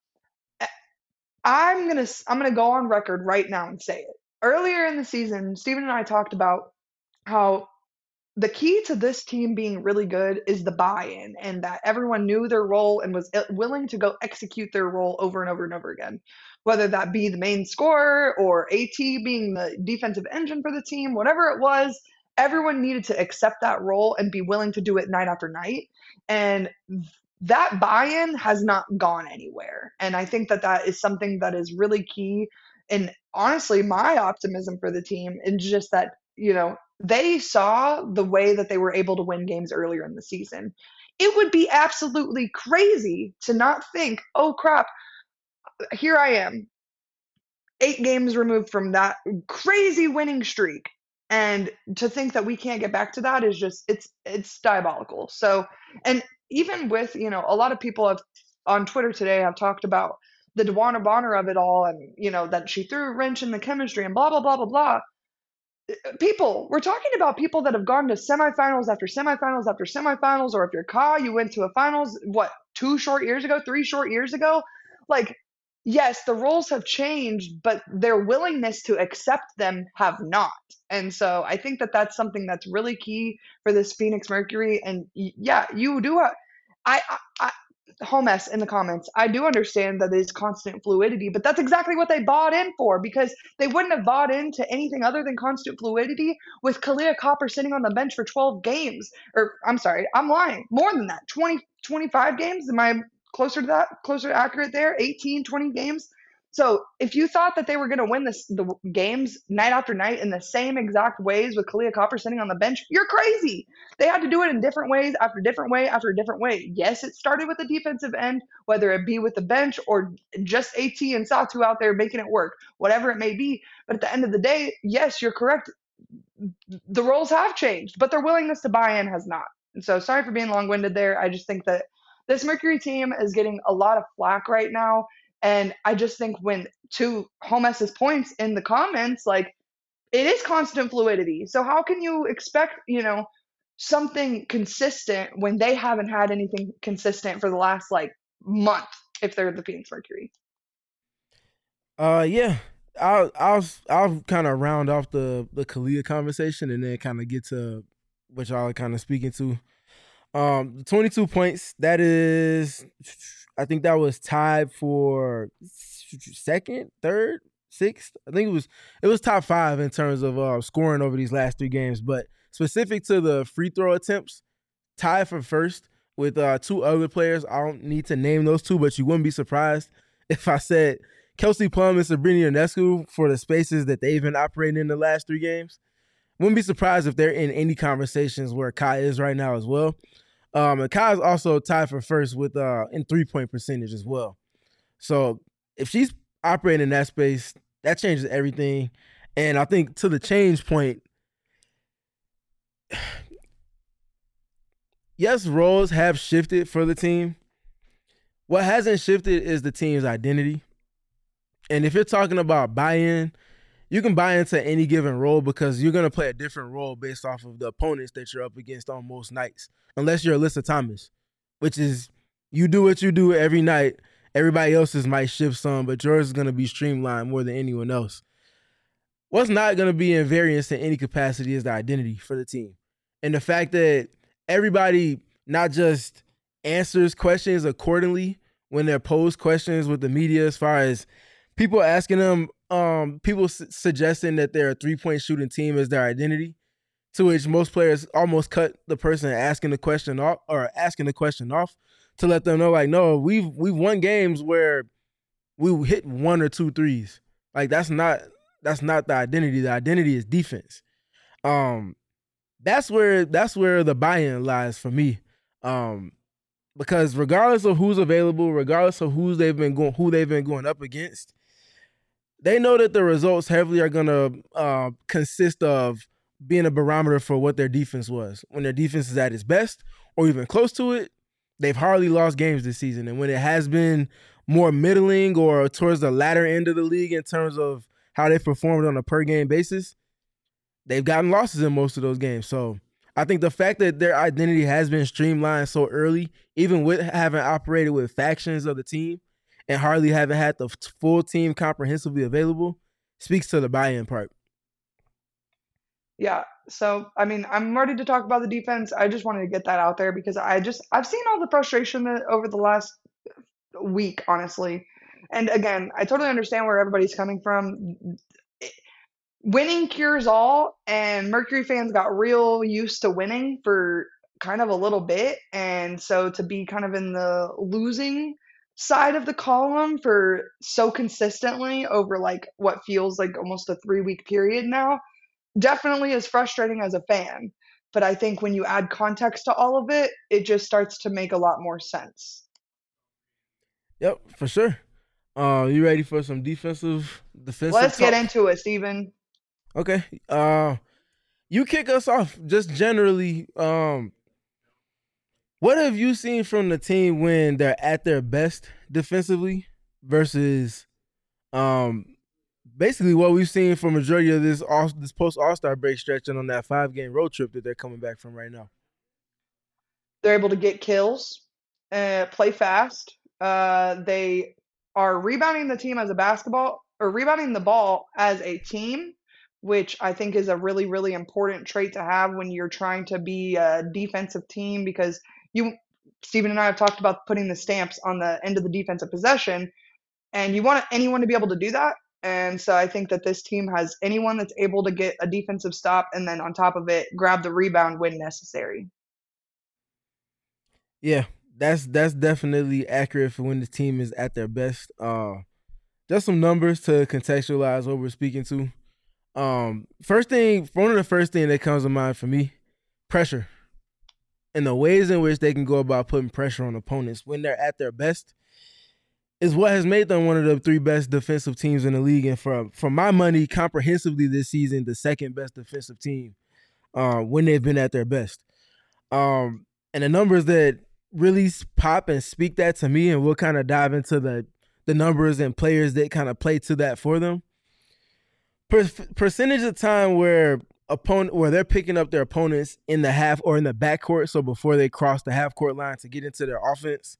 [SPEAKER 1] I'm gonna go on record right now and say it. Earlier in the season, Steven and I talked about how the key to this team being really good is the buy-in, and that everyone knew their role and was willing to go execute their role over and over and over again. Whether that be the main scorer or AT being the defensive engine for the team, whatever it was, everyone needed to accept that role and be willing to do it night after night. And that buy-in has not gone anywhere. And I think that is something that is really key. And honestly, my optimism for the team is just that, they saw the way that they were able to win games earlier in the season. It would be absolutely crazy to not think, oh crap, here I am, 8 games removed from that crazy winning streak. And to think that we can't get back to that is just, it's diabolical. So, and even with, a lot of people on Twitter today have talked about the DeWanna Bonner of it all, and, that she threw a wrench in the chemistry and blah, blah, blah, blah, blah. We're talking about people that have gone to semifinals after semifinals after semifinals, or if you're Ka, you went to a finals, 3 short years ago? Like, yes, the rules have changed, but their willingness to accept them have not. And so I think that that's something that's really key for this Phoenix Mercury. And yeah, you do. Homes in the comments, I do understand that there's constant fluidity, but that's exactly what they bought in for, because they wouldn't have bought into anything other than constant fluidity with Kahleah Copper sitting on the bench for 12 games. Or, I'm sorry, I'm lying. More than that. 20, 25 games? Am I closer to that? Closer to accurate there? 18, 20 games? So if you thought that they were going to win the games night after night in the same exact ways with Kahleah Copper sitting on the bench, you're crazy. They had to do it in different ways after different way after different way. Yes, it started with the defensive end, whether it be with the bench or just AT and Satou out there making it work, whatever it may be. But at the end of the day, yes, you're correct. The roles have changed, but their willingness to buy in has not. And so sorry for being long-winded there. I just think that this Mercury team is getting a lot of flack right now. And I just think to Homes's points in the comments, like, it is constant fluidity. So how can you expect, something consistent when they haven't had anything consistent for the last month if they're the Phoenix Mercury?
[SPEAKER 2] Yeah. I'll kind of round off the Kahleah conversation and then kind of get to what y'all are kind of speaking to. 22 points, that is, I think that was tied for second, third, sixth. I think it was top 5 in terms of scoring over these last 3 games. But specific to the free throw attempts, tied for first with 2 other players. I don't need to name those 2, but you wouldn't be surprised if I said Kelsey Plum and Sabrina Ionescu for the spaces that they've been operating in the last 3 games. Wouldn't be surprised if they're in any conversations where Kai is right now as well. And Kai is also tied for first with in 3-point percentage as well. So if she's operating in that space, that changes everything. And I think to the change point, yes, roles have shifted for the team, What hasn't shifted is the team's identity. And if you're talking about buy-in, you can buy into any given role because you're going to play a different role based off of the opponents that you're up against on most nights, unless you're Alyssa Thomas, which is you do what you do every night. Everybody else's might shift some, but yours is going to be streamlined more than anyone else. What's not going to be in variance in any capacity is the identity for the team. And the fact that everybody not just answers questions accordingly when they're posed questions with the media, as far as people asking them, people suggesting that they're a three-point shooting team as their identity, to which most players almost cut the person asking the question off to let them know, like, no, we've won games where we hit 1 or 2 threes. Like, that's not the identity. The identity is defense. That's where the buy-in lies for me. Because regardless of who's available, regardless of who they've been going up against, they know that the results heavily are going to consist of being a barometer for what their defense was. When their defense is at its best or even close to it, they've hardly lost games this season. And when it has been more middling or towards the latter end of the league in terms of how they've performed on a per-game basis, they've gotten losses in most of those games. So I think the fact that their identity has been streamlined so early, even with having operated with factions of the team and hardly having had the full team comprehensively available, speaks to the buy-in part.
[SPEAKER 1] Yeah. So, I mean, I'm ready to talk about the defense. I just wanted to get that out there because I've seen all the frustration over the last week, honestly. And again, I totally understand where everybody's coming from. Winning cures all, and Mercury fans got real used to winning for kind of a little bit. And so to be kind of in the losing side of the column for so consistently over like what feels like almost a 3-week period now definitely is frustrating as a fan. But I think when you add context to all of it, it just starts to make a lot more sense.
[SPEAKER 2] Yep, for sure. You ready for some defensive
[SPEAKER 1] Let's
[SPEAKER 2] talk?
[SPEAKER 1] get into it, Steven.
[SPEAKER 2] Okay. You kick us off just generally. What have you seen from the team when they're at their best defensively versus basically what we've seen for majority of this post All-Star break stretch and on that 5-game road trip that they're coming back from right now?
[SPEAKER 1] They're able to get kills, play fast. They are rebounding rebounding the ball as a team, which I think is a really, really important trait to have when you're trying to be a defensive team, because Steven and I have talked about putting the stamps on the end of the defensive possession, and you want anyone to be able to do that. And so I think that this team has anyone that's able to get a defensive stop and then on top of it, grab the rebound when necessary.
[SPEAKER 2] Yeah, that's definitely accurate for when the team is at their best. Just some numbers to contextualize what we're speaking to. One of the first thing that comes to mind for me, pressure. And the ways in which they can go about putting pressure on opponents when they're at their best is what has made them one of the 3 best defensive teams in the league. And for my money, comprehensively this season, the 2nd best defensive team when they've been at their best. And the numbers that really pop and speak that to me, and we'll kind of dive into the numbers and players that kind of play to that for them. Percentage of time where they're picking up their opponents in the half or in the backcourt, so before they cross the half court line to get into their offense.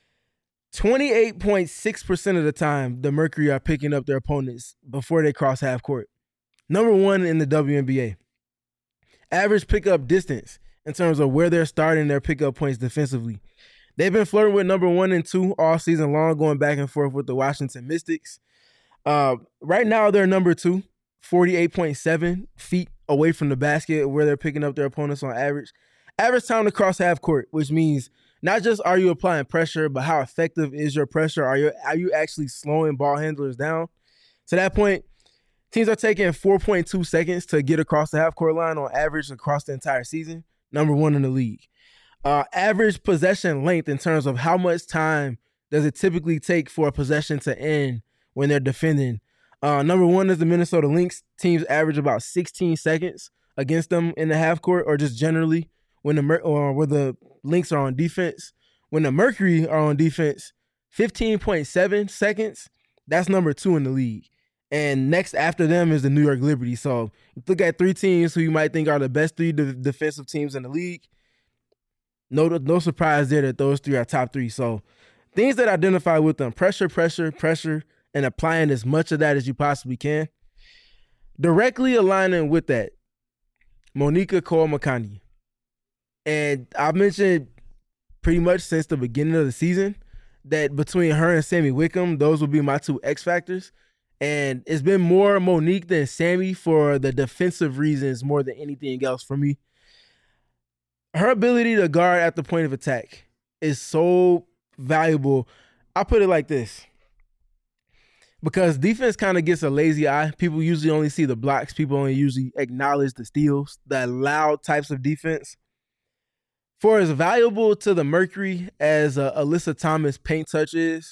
[SPEAKER 2] 28.6% of the time, the Mercury are picking up their opponents before they cross half court. Number 1 in the WNBA. Average pickup distance in terms of where they're starting their pickup points defensively. They've been flirting with number 1 and 2 all season long, going back and forth with the Washington Mystics. Right now, they're number 2, 48.7 feet away from the basket where they're picking up their opponents on average. Average time to cross half court, which means not just are you applying pressure, but how effective is your pressure? Are you actually slowing ball handlers down? To that point, teams are taking 4.2 seconds to get across the half court line on average across the entire season. Number 1 in the league. Average possession length in terms of how much time does it typically take for a possession to end when they're defending. Number 1 is the Minnesota Lynx. Teams average about 16 seconds against them in the half court, or just generally when the Lynx are on defense. When the Mercury are on defense, 15.7 seconds. That's number 2 in the league. And next after them is the New York Liberty. So look at 3 teams who you might think are the best 3 defensive teams in the league. No surprise there that those 3 are top 3. So things that identify with them: pressure, and applying as much of that as you possibly can. Directly aligning with that, Monica Cole-Makani. And I've mentioned pretty much since the beginning of the season that between her and Sammy Wickham, those will be my 2 X factors. And it's been more Monique than Sammy for the defensive reasons more than anything else for me. Her ability to guard at the point of attack is so valuable. I'll put it like this. Because defense kind of gets a lazy eye. People usually only see the blocks. People only usually acknowledge the steals, the loud types of defense. For as valuable to the Mercury as Alyssa Thomas paint touch is,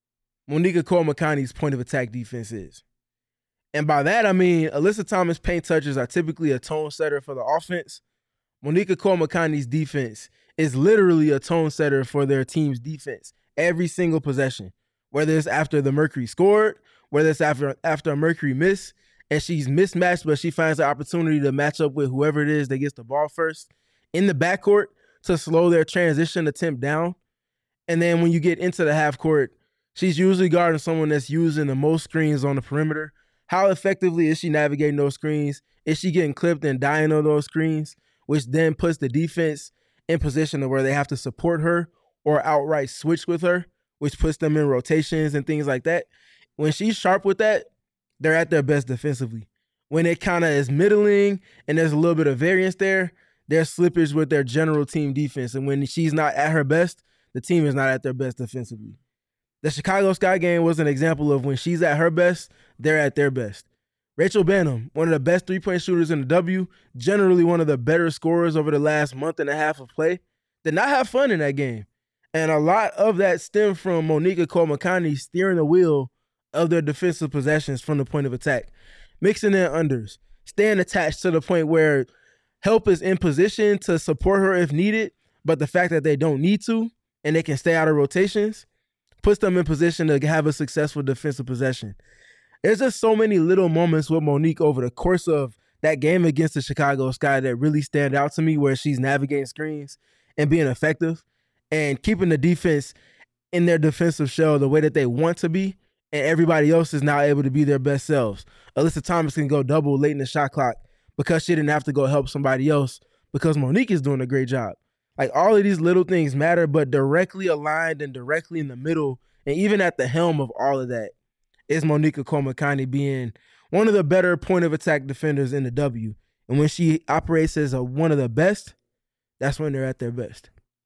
[SPEAKER 2] Monica Cole-Makani's point of attack defense is. And by that, I mean Alyssa Thomas paint touches are typically a tone setter for the offense. Monica Cole-Makani's defense is literally a tone setter for their team's defense every single possession. Whether it's after the Mercury scored, whether it's after a Mercury miss, and she's mismatched, but she finds the opportunity to match up with whoever it is that gets the ball first in the backcourt to slow their transition attempt down. And then when you get into the half court, she's usually guarding someone that's using the most screens on the perimeter. How effectively is she navigating those screens? Is she getting clipped and dying on those screens, which then puts the defense in position to where they have to support her or outright switch with her, which puts them in rotations and things like that. When she's sharp with that, they're at their best defensively. When it kind of is middling and there's a little bit of variance there, there's slippage with their general team defense. And when she's not at her best, the team is not at their best defensively. The Chicago Sky game was an example of when she's at her best, they're at their best. Rachel Banham, one of the best three-point shooters in the W, generally one of the better scorers over the last month and a half of play, did not have fun in that game. And a lot of that stemmed from Monica Cole-Makani steering the wheel of their defensive possessions from the point of attack, mixing in unders, staying attached to the point where help is in position to support her if needed, but the fact that they don't need to and they can stay out of rotations puts them in position to have a successful defensive possession. There's just so many little moments with Monique over the course of that game against the Chicago Sky that really stand out to me, where she's navigating screens and being effective and keeping the defense in their defensive shell the way that they want to be, and everybody else is now able to be their best selves. Alyssa Thomas can go double late in the shot clock because she didn't have to go help somebody else because Monique is doing a great job. Like, all of these little things matter, but directly aligned and directly in the middle and even at the helm of all of that is Monica Cole-Makani being one of the better point of attack defenders in the W. And when she operates as one of the best, that's when they're at their best.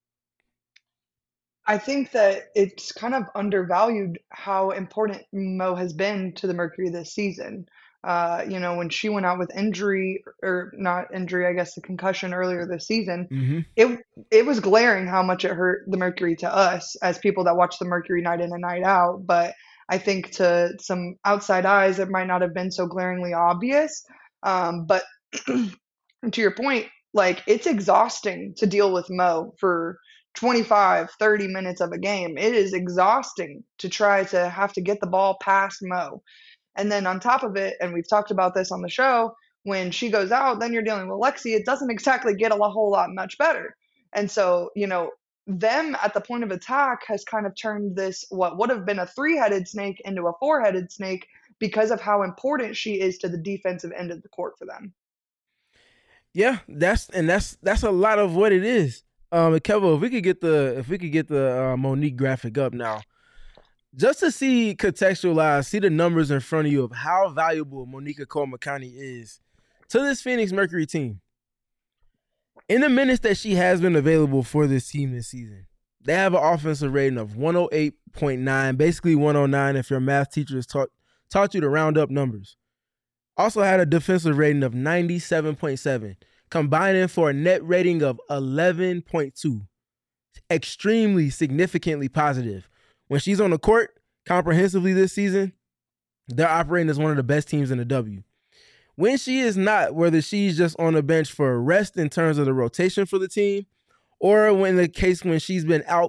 [SPEAKER 1] I think that it's kind of undervalued how important Mo has been to the Mercury this season. When she went out with injury, or not injury, I guess the concussion earlier this season, it was glaring how much it hurt the Mercury to us as people that watch the Mercury night in and night out. But I think to some outside eyes, it might not have been so glaringly obvious. But to your point, like, it's exhausting to deal with Mo for 25, 30 minutes of a game. It is exhausting to try to have to get the ball past Mo. And then on top of it, and we've talked about this on the show, when she goes out, then you're dealing with Lexi. It doesn't exactly get a whole lot much better. And so, them at the point of attack has kind of turned this, what would have been a 3-headed snake, into a 4-headed snake because of how important she is to the defensive end of the court for them.
[SPEAKER 2] Yeah, that's a lot of what it is. Kevo, if we could get the Monique graphic up now, just to contextualize, see the numbers in front of you of how valuable Monica Cole-Makani is to this Phoenix Mercury team. In the minutes that she has been available for this team this season, they have an offensive rating of 108.9, basically 109 if your math teacher has taught you to round up numbers. Also had a defensive rating of 97.7, combining for a net rating of 11.2. Extremely significantly positive. When she's on the court comprehensively this season, they're operating as one of the best teams in the W. When she is not, whether she's just on the bench for a rest in terms of the rotation for the team, or when she's been out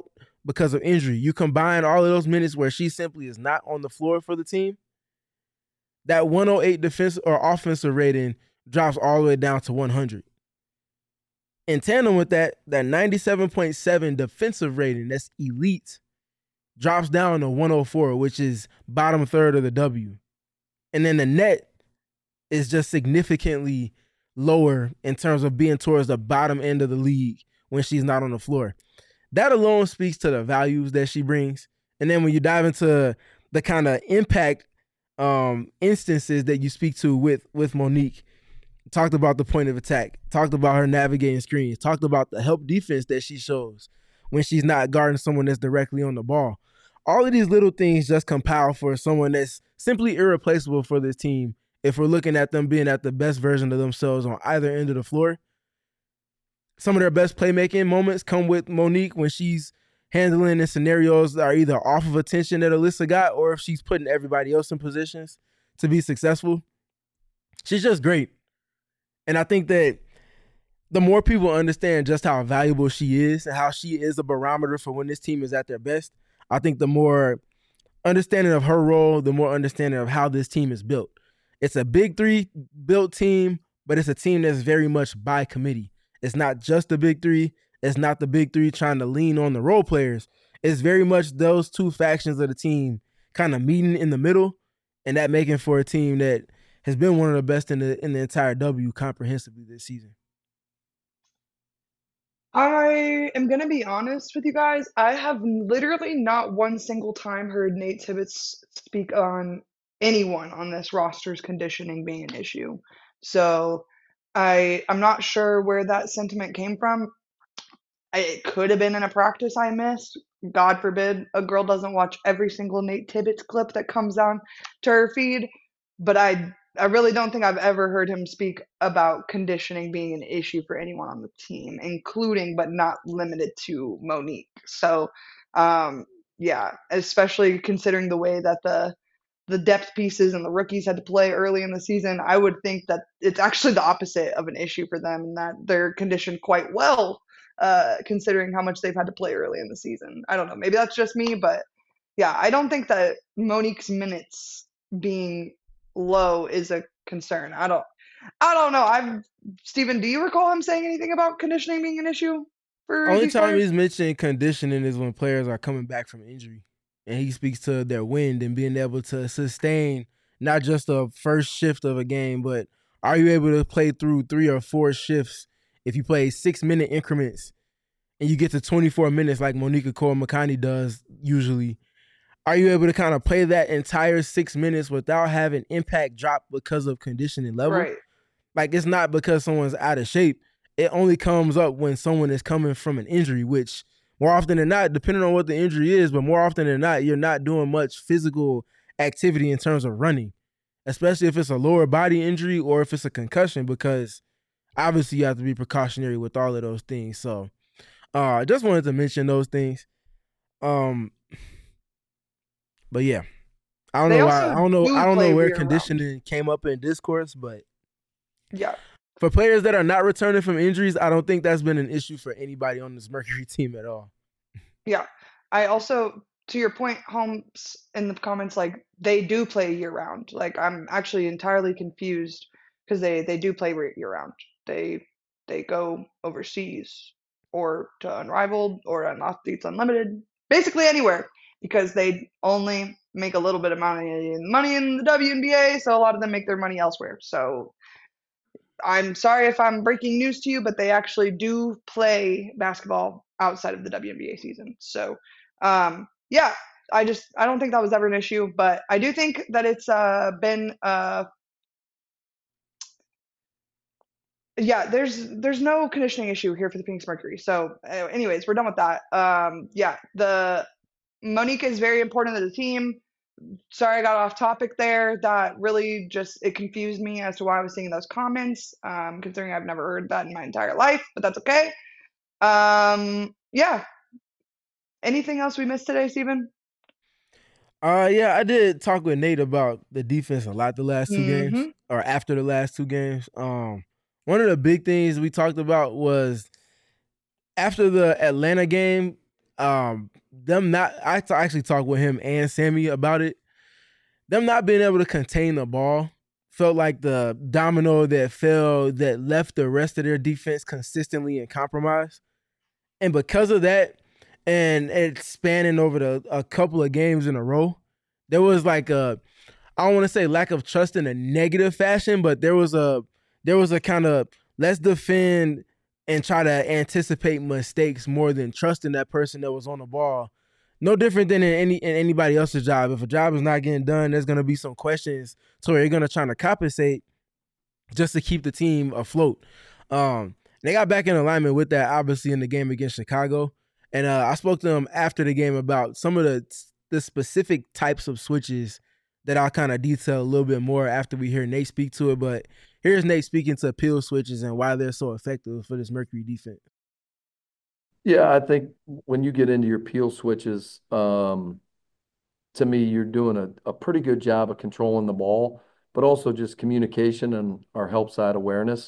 [SPEAKER 2] because of injury. You combine all of those minutes where she simply is not on the floor for the team, that 108 defensive or offensive rating drops all the way down to 100. In tandem with that 97.7 defensive rating, that's elite, drops down to 104, which is bottom third of the W. And then the net is just significantly lower in terms of being towards the bottom end of the league when she's not on the floor. That alone speaks to the values that she brings. And then when you dive into the kind of impact instances that you speak to with Monique, talked about the point of attack, talked about her navigating screens, talked about the help defense that she shows when she's not guarding someone that's directly on the ball. All of these little things just compile for someone that's simply irreplaceable for this team if we're looking at them being at the best version of themselves on either end of the floor. Some of their best playmaking moments come with Monique when she's handling in scenarios that are either off of attention that Alyssa got or if she's putting everybody else in positions to be successful. She's just great. And I think that the more people understand just how valuable she is and how she is a barometer for when this team is at their best, I think the more understanding of her role, the more understanding of how this team is built. It's a big three built team, but it's a team that's very much by committee. It's not just the big three. It's not the big three trying to lean on the role players. It's very much those two factions of the team kind of meeting in the middle and that making for a team that has been one of the best in the entire W comprehensively this season.
[SPEAKER 1] I am going to be honest with you guys. I have literally not one single time heard Nate Tibbetts speak on anyone on this roster's conditioning being an issue. So I'm not sure where that sentiment came from. It could have been in a practice I missed. God forbid a girl doesn't watch every single Nate Tibbetts clip that comes down to her feed. But I really don't think I've ever heard him speak about conditioning being an issue for anyone on the team, including but not limited to Monique. So, yeah, especially considering the way that the depth pieces and the rookies had to play early in the season, I would think that it's actually the opposite of an issue for them and that they're conditioned quite well, considering how much they've had to play early in the season. I don't know. Maybe that's just me, but yeah, I don't think that Monique's minutes being low is a concern. I don't know. Steven, do you recall him saying anything about conditioning being an issue for
[SPEAKER 2] Only
[SPEAKER 1] these
[SPEAKER 2] time
[SPEAKER 1] players?
[SPEAKER 2] he's mentioned conditioning is when players are coming back from injury. And he speaks to their wind and being able to sustain not just the first shift of a game, but are you able to play through 3 or 4 shifts if you play 6-minute increments and you get to 24 minutes like Monica Cole-McConaughey does usually? Are you able to kind of play that entire 6 minutes without having impact drop because of conditioning level?
[SPEAKER 1] Right.
[SPEAKER 2] Like, it's not because someone's out of shape. It only comes up when someone is coming from an injury, which more often than not, depending on what the injury is, but more often than not, you're not doing much physical activity in terms of running, especially if it's a lower body injury or if it's a concussion, because obviously you have to be precautionary with all of those things. So I just wanted to mention those things. But yeah, I don't
[SPEAKER 1] They
[SPEAKER 2] know
[SPEAKER 1] also
[SPEAKER 2] why. I don't know
[SPEAKER 1] play
[SPEAKER 2] where
[SPEAKER 1] year-round.
[SPEAKER 2] conditioning came up in discourse, but
[SPEAKER 1] Yeah.
[SPEAKER 2] for players that are not returning from injuries, I don't think that's been an issue for anybody on this Mercury team at all.
[SPEAKER 1] Yeah. I also, to your point, Holmes, in the comments, like, they do play year round. Like, I'm actually entirely confused because they do play year round. They go overseas or to Unrivaled or on Athletes Unlimited, basically anywhere, because they only make a little bit of money in the WNBA, so a lot of them make their money elsewhere. So I'm sorry if I'm breaking news to you, but they actually do play basketball outside of the WNBA season. So, yeah, I don't think that was ever an issue, but I do think that it's been yeah, there's no conditioning issue here for the Phoenix Mercury. So, anyways, we're done with that. Yeah, the Monique is very important to the team. Sorry I got off topic there. That really it confused me as to why I was seeing those comments, considering I've never heard that in my entire life, but that's okay. Yeah. Anything else we missed today, Steven?
[SPEAKER 2] Yeah, I did talk with Nate about the defense a lot the last 2 games,
[SPEAKER 1] Mhm.
[SPEAKER 2] or after the last 2 games. One of the big things we talked about was after the Atlanta game, Them not. Actually talked with him and Sammy about it. Them not being able to contain the ball felt like the domino that fell that left the rest of their defense consistently in compromise. And because of that, and it's spanning over a couple of games in a row, there was like I don't want to say lack of trust in a negative fashion, but there was a kind of let's defend and try to anticipate mistakes more than trusting that person that was on the ball. No different than in anybody else's job. If a job is not getting done, there's going to be some questions to where you're going to try to compensate just to keep the team afloat. They got back in alignment with that, obviously, in the game against Chicago. And I spoke to them after the game about some of the specific types of switches that I'll kind of detail a little bit more after we hear Nate speak to it. But here's Nate speaking to peel switches and why they're so effective for this Mercury defense.
[SPEAKER 4] Yeah, I think when you get into your peel switches, to me, you're doing a pretty good job of controlling the ball, but also just communication and our help side awareness.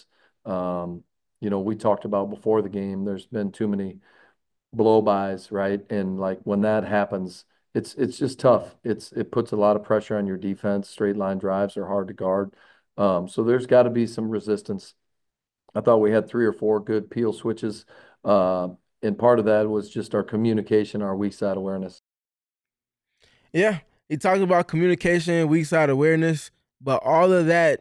[SPEAKER 4] We talked about before the game, there's been too many blow-bys, right? And like when that happens, it's just tough. It puts a lot of pressure on your defense. Straight line drives are hard to guard. So there's got to be some resistance. I thought we had 3 or 4 good peel switches. And part of that was just our communication, our weak side awareness.
[SPEAKER 2] Yeah, he talked about communication, weak side awareness, but all of that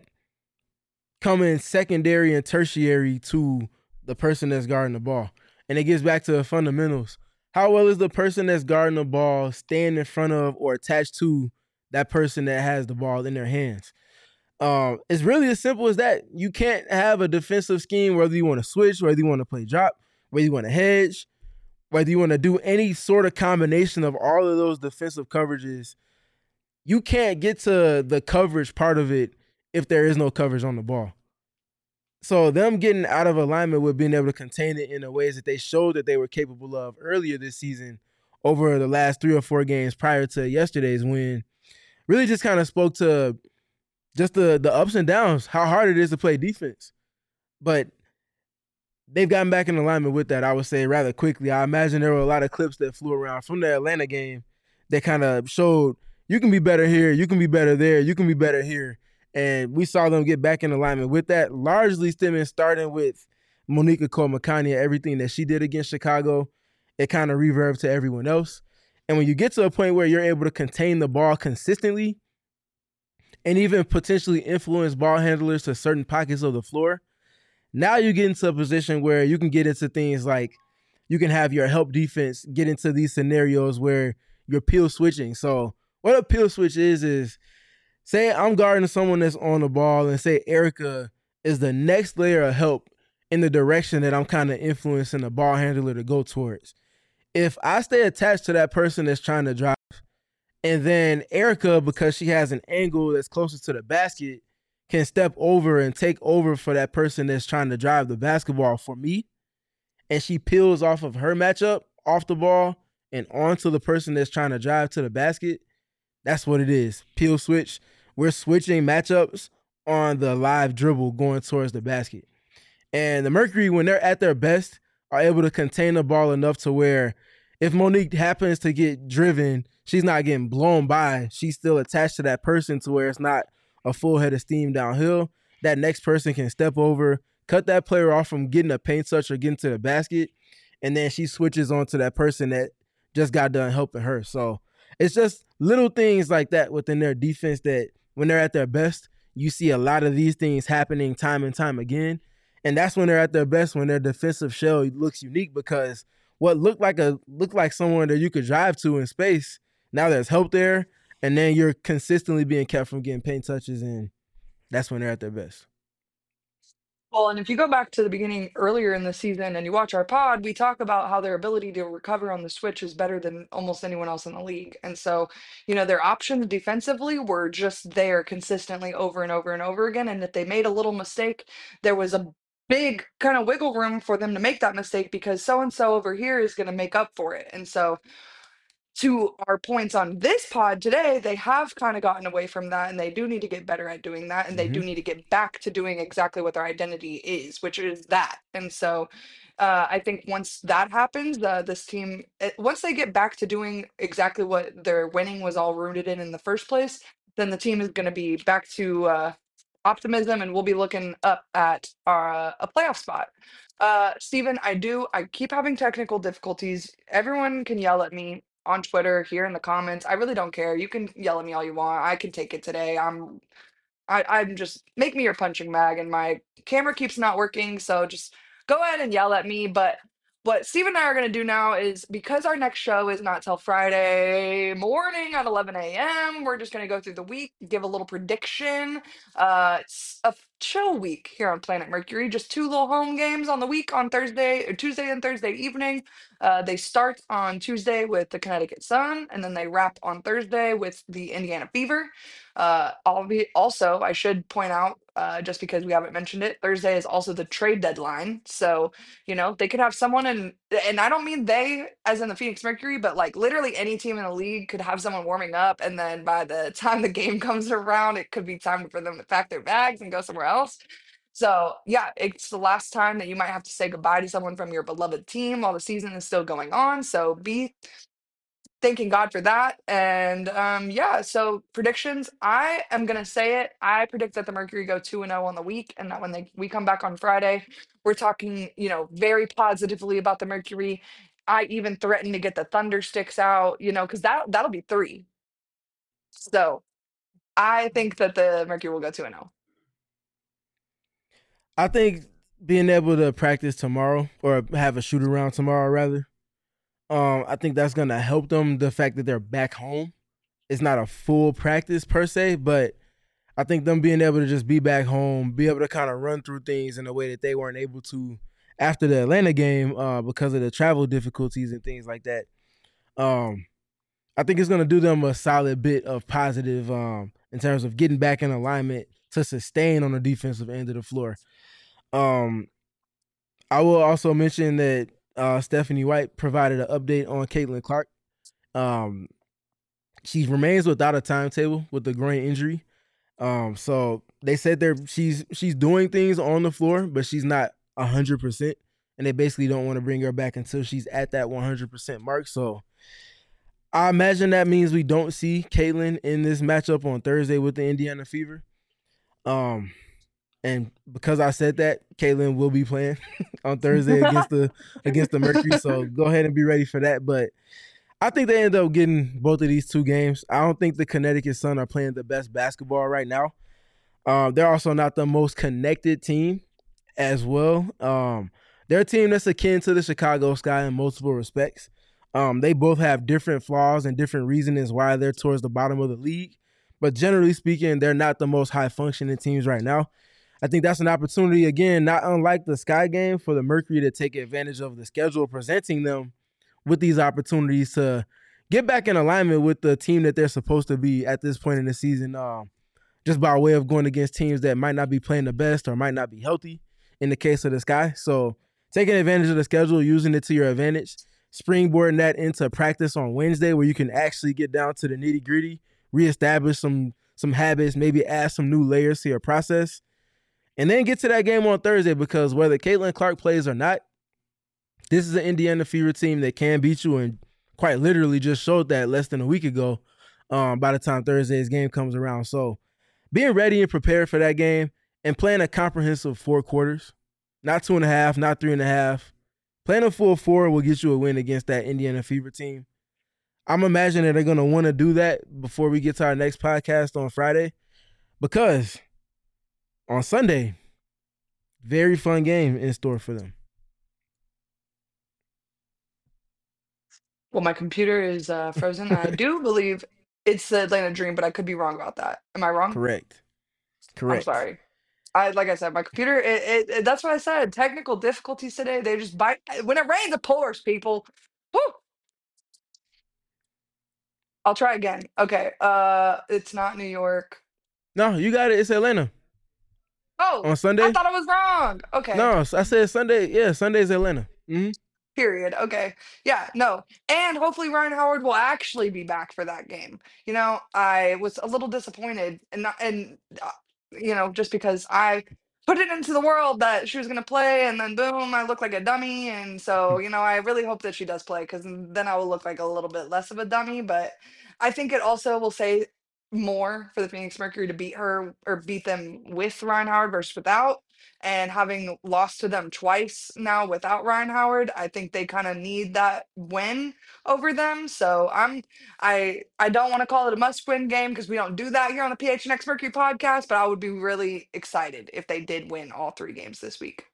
[SPEAKER 2] coming secondary and tertiary to the person that's guarding the ball. And it gets back to the fundamentals. How well is the person that's guarding the ball staying in front of or attached to that person that has the ball in their hands? It's really as simple as that. You can't have a defensive scheme, whether you want to switch, whether you want to play drop, whether you want to hedge, whether you want to do any sort of combination of all of those defensive coverages. You can't get to the coverage part of it if there is no coverage on the ball. So them getting out of alignment with being able to contain it in the ways that they showed that they were capable of earlier this season over the last 3 or 4 games prior to yesterday's win really just kind of spoke to just the ups and downs, how hard it is to play defense. But they've gotten back in alignment with that, I would say, rather quickly. I imagine there were a lot of clips that flew around from the Atlanta game that kind of showed you can be better here, you can be better there, you can be better here. And we saw them get back in alignment with that, largely starting with Monique Nicole-Makani and everything that she did against Chicago. It kind of reverbed to everyone else. And when you get to a point where you're able to contain the ball consistently and even potentially influence ball handlers to certain pockets of the floor, now you get into a position where you can get into things like you can have your help defense get into these scenarios where you're peel switching. So what a peel switch is say I'm guarding someone that's on the ball and say Erica is the next layer of help in the direction that I'm kind of influencing the ball handler to go towards. If I stay attached to that person that's trying to drive, and then Erica, because she has an angle that's closer to the basket, can step over and take over for that person that's trying to drive the basketball for me, and she peels off of her matchup, off the ball, and onto the person that's trying to drive to the basket, that's what it is. Peel switch. We're switching matchups on the live dribble going towards the basket. And the Mercury, when they're at their best, are able to contain the ball enough to where if Monique happens to get driven, she's not getting blown by. She's still attached to that person to where it's not a full head of steam downhill. That next person can step over, cut that player off from getting a paint touch or getting to the basket, and then she switches on to that person that just got done helping her. So it's just little things like that within their defense that when they're at their best, you see a lot of these things happening time and time again. And that's when they're at their best, when their defensive shell looks unique, because what looked like someone that you could drive to in space, now there's help there, and then you're consistently being kept from getting paint touches, and that's when they're at their best.
[SPEAKER 1] Well, and if you go back to the beginning earlier in the season and you watch our pod, we talk about how their ability to recover on the switch is better than almost anyone else in the league. And so, their options defensively were just there consistently over and over and over again. And if they made a little mistake, there was a big kind of wiggle room for them to make that mistake because so and so over here is going to make up for it. And so, to our points on this pod today, they have kind of gotten away from that and they do need to get better at doing that. And they do need to get back to doing exactly what their identity is, which is that. And so I think once that happens, this team, once they get back to doing exactly what their winning was all rooted in the first place, then the team is going to be back to optimism, and we'll be looking up at a playoff spot. Steven, I keep having technical difficulties. Everyone can yell at me on Twitter, here in the comments. I really don't care. You can yell at me all you want. I can take it today. I'm just make me your punching bag, and my camera keeps not working, so just go ahead and yell at me. But what Steve and I are gonna do now is, because our next show is not till Friday morning at 11 a.m., we're just gonna go through the week, give a little prediction. It's a chill week here on Planet Mercury. Just two little home games on the week on Thursday or Tuesday and Thursday evening. They start on Tuesday with the Connecticut Sun, and then they wrap on Thursday with the Indiana Fever. Also, I should point out, just because we haven't mentioned it, Thursday is also the trade deadline. So, they could have someone and I don't mean they as in the Phoenix Mercury, but like literally any team in the league could have someone warming up. And then by the time the game comes around, it could be time for them to pack their bags and go somewhere else. So, yeah, it's the last time that you might have to say goodbye to someone from your beloved team while the season is still going on. So be thanking God for that. And yeah, so predictions, I am gonna say it. I predict that the Mercury go 2-0 on the week, and that when we come back on Friday, we're talking, very positively about the Mercury. I even threaten to get the Thunder sticks out, because that'll be three. So I think that the Mercury will go 2-0.
[SPEAKER 2] I think being able to practice tomorrow, or have a shoot around tomorrow rather, I think that's gonna help them. The fact that they're back home, it's not a full practice per se, but I think them being able to just be back home, be able to kind of run through things in a way that they weren't able to after the Atlanta game, because of the travel difficulties and things like that. Um, I think it's gonna do them a solid bit of positive, in terms of getting back in alignment to sustain on the defensive end of the floor. Um, I will also mention that Stephanie White provided an update on Caitlin Clark. Um, she remains without a timetable with the groin injury. So they said she's doing things on the floor, but she's not 100%, and they basically don't want to bring her back until she's at that 100% mark. So I imagine that means we don't see Caitlin in this matchup on Thursday with the Indiana Fever. And because I said that, Caitlin will be playing on Thursday against the Mercury. So go ahead and be ready for that. But I think they end up getting both of these two games. I don't think the Connecticut Sun are playing the best basketball right now. They're also not the most connected team as well. They're a team that's akin to the Chicago Sky in multiple respects. They both have different flaws and different reasons why they're towards the bottom of the league. But generally speaking, they're not the most high-functioning teams right now. I think that's an opportunity, again, not unlike the Sky game, for the Mercury to take advantage of the schedule presenting them with these opportunities to get back in alignment with the team that they're supposed to be at this point in the season, just by way of going against teams that might not be playing the best or might not be healthy in the case of the Sky. So taking advantage of the schedule, using it to your advantage, springboarding that into practice on Wednesday where you can actually get down to the nitty-gritty, reestablish some habits, maybe add some new layers to your process, and then get to that game on Thursday, because whether Caitlin Clark plays or not, this is an Indiana Fever team that can beat you, and quite literally just showed that less than a week ago, by the time Thursday's game comes around. So being ready and prepared for that game and playing a comprehensive 4 quarters, not 2.5, not 3.5, playing a full 4 will get you a win against that Indiana Fever team. I'm imagining they're going to want to do that before we get to our next podcast on Friday, because on Sunday, very fun game in store for them.
[SPEAKER 1] Well, my computer is frozen. I do believe it's the Atlanta Dream, but I could be wrong about that. Am I wrong?
[SPEAKER 2] Correct.
[SPEAKER 1] I'm sorry. Like I said, my computer. That's what I said. Technical difficulties today. They just bite. When it rains, it pours. People. Whew. I'll try again. Okay. It's not New York.
[SPEAKER 2] No, you got it. It's Atlanta.
[SPEAKER 1] Oh,
[SPEAKER 2] on Sunday.
[SPEAKER 1] I thought I was wrong. Okay.
[SPEAKER 2] No, I said Sunday. Yeah, Sunday's Atlanta. Mm-hmm.
[SPEAKER 1] Period. Okay. Yeah, no. And hopefully Ryan Howard will actually be back for that game. I was a little disappointed, and not, and just because I put it into the world that she was going to play, and then boom, I look like a dummy. And so, I really hope that she does play, because then I will look like a little bit less of a dummy. But I think it also will say more for the Phoenix Mercury to beat her, or beat them with Ryan Howard versus without. And having lost to them twice now without Ryan Howard, I think they kind of need that win over them. So I don't want to call it a must-win game, because we don't do that here on the PHNX Mercury podcast, but I would be really excited if they did win all 3 games this week.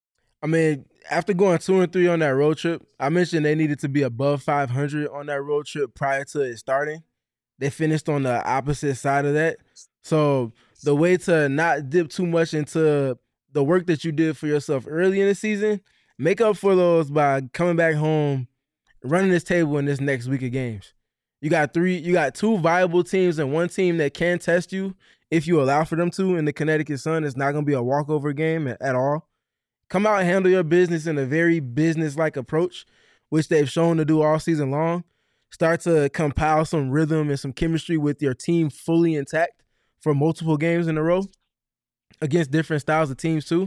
[SPEAKER 2] I mean, after going 2-3 on that road trip, I mentioned they needed to be above 500 on that road trip prior to it starting. They finished on the opposite side of that. So the way to not dip too much into the work that you did for yourself early in the season, make up for those by coming back home, running this table in this next week of games. You got 2 viable teams and 1 team that can test you if you allow for them to in the Connecticut Sun. It's not going to be a walkover game at all. Come out and handle your business in a very business-like approach, which they've shown to do all season long. Start to compile some rhythm and some chemistry with your team fully intact for multiple games in a row against different styles of teams too.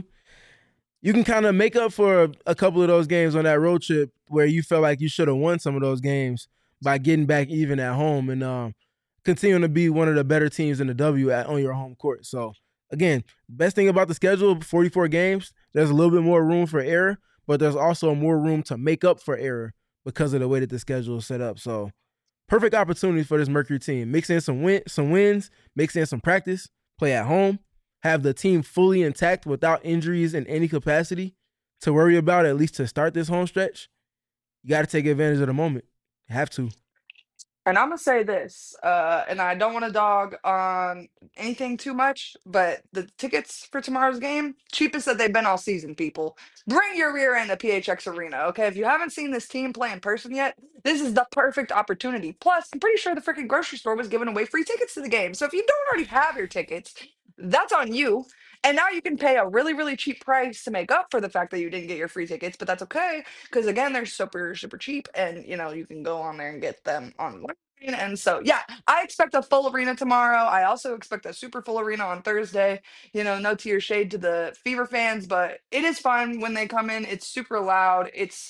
[SPEAKER 2] You can kind of make up for a couple of those games on that road trip where you felt like you should have won some of those games by getting back even at home and continuing to be one of the better teams in the W on your home court. So again, best thing about the schedule, 44 games, there's a little bit more room for error, but there's also more room to make up for error because of the way that the schedule is set up. So perfect opportunity for this Mercury team. Mix in some wins, mix in some practice, play at home, have the team fully intact without injuries in any capacity to worry about, at least to start this home stretch. You got to take advantage of the moment. You have to.
[SPEAKER 1] And I'm going to say this, and I don't want to dog on anything too much, but the tickets for tomorrow's game, cheapest that they've been all season, people. Bring your rear end to PHX Arena, okay? If you haven't seen this team play in person yet, this is the perfect opportunity. Plus, I'm pretty sure the freaking grocery store was giving away free tickets to the game. So if you don't already have your tickets, that's on you. And now you can pay a really, really cheap price to make up for the fact that you didn't get your free tickets, but that's okay, because again, they're super, super cheap, and you can go on there and get them online. And so, yeah, I expect a full arena tomorrow. I also expect a super full arena on Thursday. No tear shade to the Fever fans, but it is fun when they come in. It's super loud.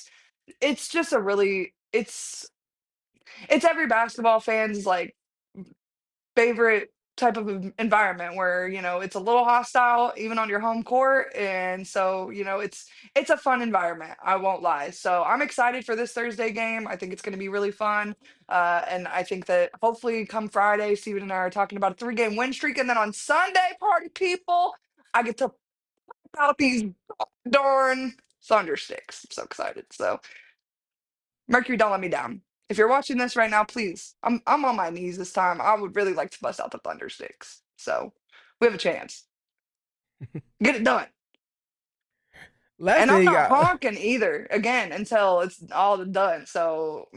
[SPEAKER 1] It's just a really it's every basketball fan's like favorite type of environment where it's a little hostile even on your home court. And so it's a fun environment, I won't lie. So I'm excited for this Thursday game. I think it's going to be really fun, and I think that hopefully come Friday, Steven and I are talking about a 3-game win streak, and then on Sunday, party people, I get to pop out these darn thunder sticks. I'm so excited. So Mercury, don't let me down. If you're watching this right now, please, I'm on my knees this time. I would really like to bust out the thunder sticks. So we have a chance. Get it done. And I'm not honking either, again, until it's all done. So,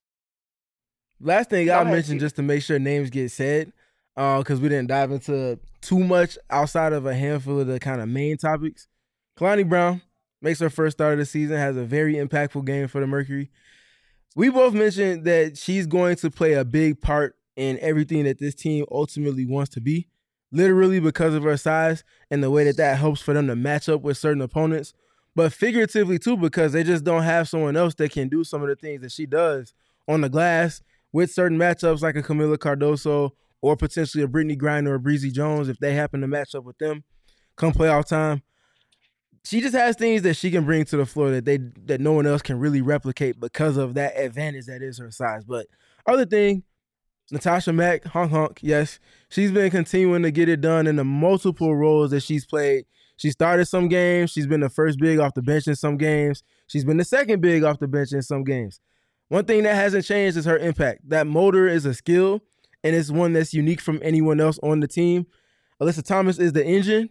[SPEAKER 2] Last thing I mentioned, just to make sure names get said, because we didn't dive into too much outside of a handful of the kind of main topics. Kalani Brown makes her first start of the season, has a very impactful game for the Mercury. We both mentioned that she's going to play a big part in everything that this team ultimately wants to be, literally because of her size and the way that helps for them to match up with certain opponents, but figuratively too, because they just don't have someone else that can do some of the things that she does on the glass with certain matchups like a Camila Cardoso or potentially a Brittany Griner or Breezy Jones if they happen to match up with them come playoff time. She just has things that she can bring to the floor that no one else can really replicate because of that advantage that is her size. But other thing, Natasha Mack, honk, yes, she's been continuing to get it done in the multiple roles that she's played. She started some games. She's been the first big off the bench in some games. She's been the second big off the bench in some games. One thing that hasn't changed is her impact. That motor is a skill, and it's one that's unique from anyone else on the team. Alyssa Thomas is the engine.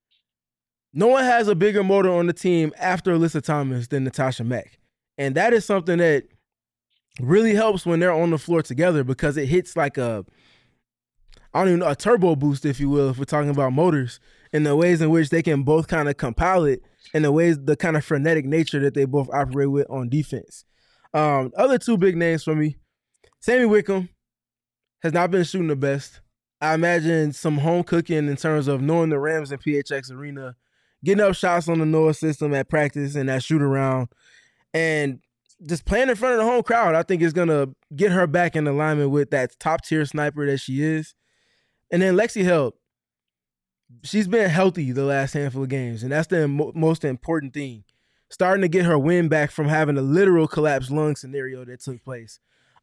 [SPEAKER 2] No one has a bigger motor on the team after Alyssa Thomas than Natasha Mack. And that is something that really helps when they're on the floor together, because it hits like a turbo boost, if you will, if we're talking about motors, in the ways in which they can both kind of compile it, and the kind of frenetic nature that they both operate with on defense. Other 2 big names for me, Sammy Wickham has not been shooting the best. I imagine some home cooking in terms of knowing the Rams and PHX Arena getting up shots on the Noah system at practice and that shoot around, and just playing in front of the home crowd, I think is going to get her back in alignment with that top tier sniper that she is. And then Lexi Held, she's been healthy the last handful of games, and that's the most important thing. Starting to get her win back from having a literal collapsed lung scenario that took place.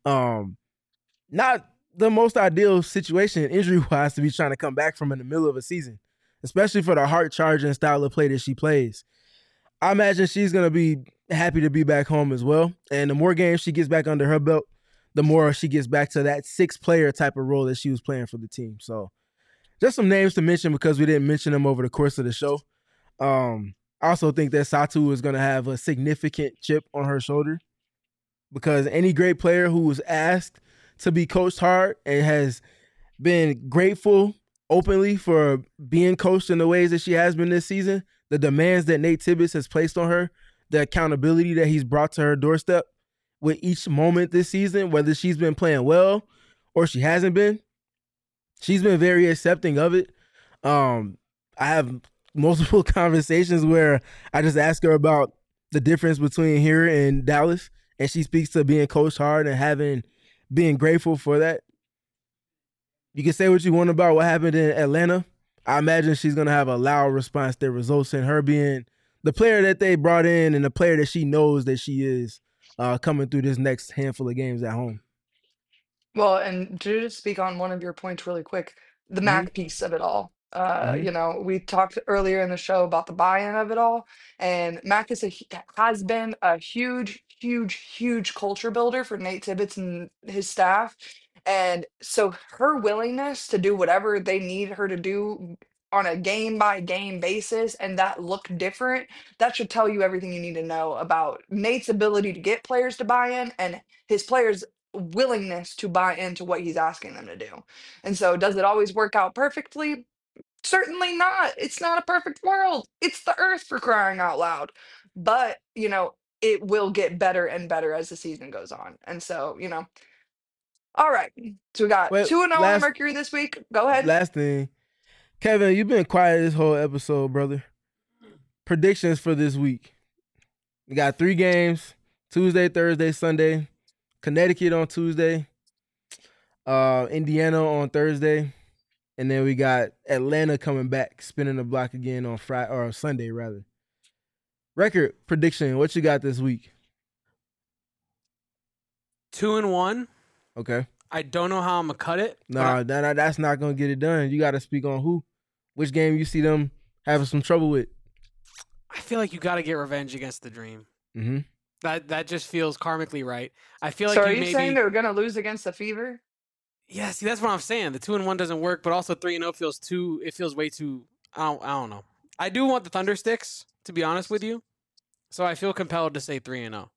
[SPEAKER 2] Not the most ideal situation injury-wise to be trying to come back from in the middle of a season, especially for the heart-charging style of play that she plays. I imagine she's going to be happy to be back home as well. And the more games she gets back under her belt, the more she gets back to that 6-player type of role that she was playing for the team. So just some names to mention because we didn't mention them over the course of the show. I also think that Satou is going to have a significant chip on her shoulder because any great player who was asked to be coached hard and has been grateful openly for being coached in the ways that she has been this season, the demands that Nate Tibbetts has placed on her, the accountability that he's brought to her doorstep with each moment this season, whether she's been playing well or she hasn't been, she's been very accepting of it. I have multiple conversations where I just ask her about the difference between here and Dallas, and she speaks to being coached hard and being grateful for that. You can say what you want about what happened in Atlanta. I imagine she's going to have a loud response that results in her being the player that they brought in and the player that she knows that she is coming through this next handful of games at home.
[SPEAKER 1] Well, and to just speak on one of your points really quick, the Mac piece of it all. We talked earlier in the show about the buy-in of it all, and Mac has been a huge, huge, huge culture builder for Nate Tibbetts and his staff. And so her willingness to do whatever they need her to do on a game by game basis and that look different, that should tell you everything you need to know about Nate's ability to get players to buy in and his players' willingness to buy into what he's asking them to do. And so, does it always work out perfectly? Certainly not. It's not a perfect world. It's the earth for crying out loud. But, it will get better and better as the season goes on. And so, all right. So we got
[SPEAKER 2] Well,
[SPEAKER 1] 2-0 on the Mercury this week. Go ahead.
[SPEAKER 2] Last thing. Kevin, you've been quiet this whole episode, brother. Predictions for this week. We got 3 games, Tuesday, Thursday, Sunday. Connecticut on Tuesday, Indiana on Thursday, and then we got Atlanta coming back, spinning the block again on Friday or Sunday rather. Record prediction: what you got this week?
[SPEAKER 3] 2-1.
[SPEAKER 2] Okay.
[SPEAKER 3] I don't know how I'm gonna cut it.
[SPEAKER 2] No, that's not gonna get it done. You got to speak on which game you see them having some trouble with.
[SPEAKER 3] I feel like you got to get revenge against the Dream.
[SPEAKER 2] Mm-hmm.
[SPEAKER 3] That just feels karmically right. I feel like
[SPEAKER 1] so are you saying they're gonna lose against the Fever?
[SPEAKER 3] Yeah, see, that's what I'm saying. The 2-1 doesn't work, but also 3-0 feels way too. I don't know. I do want the Thundersticks, to be honest with you. So I feel compelled to say 3-0.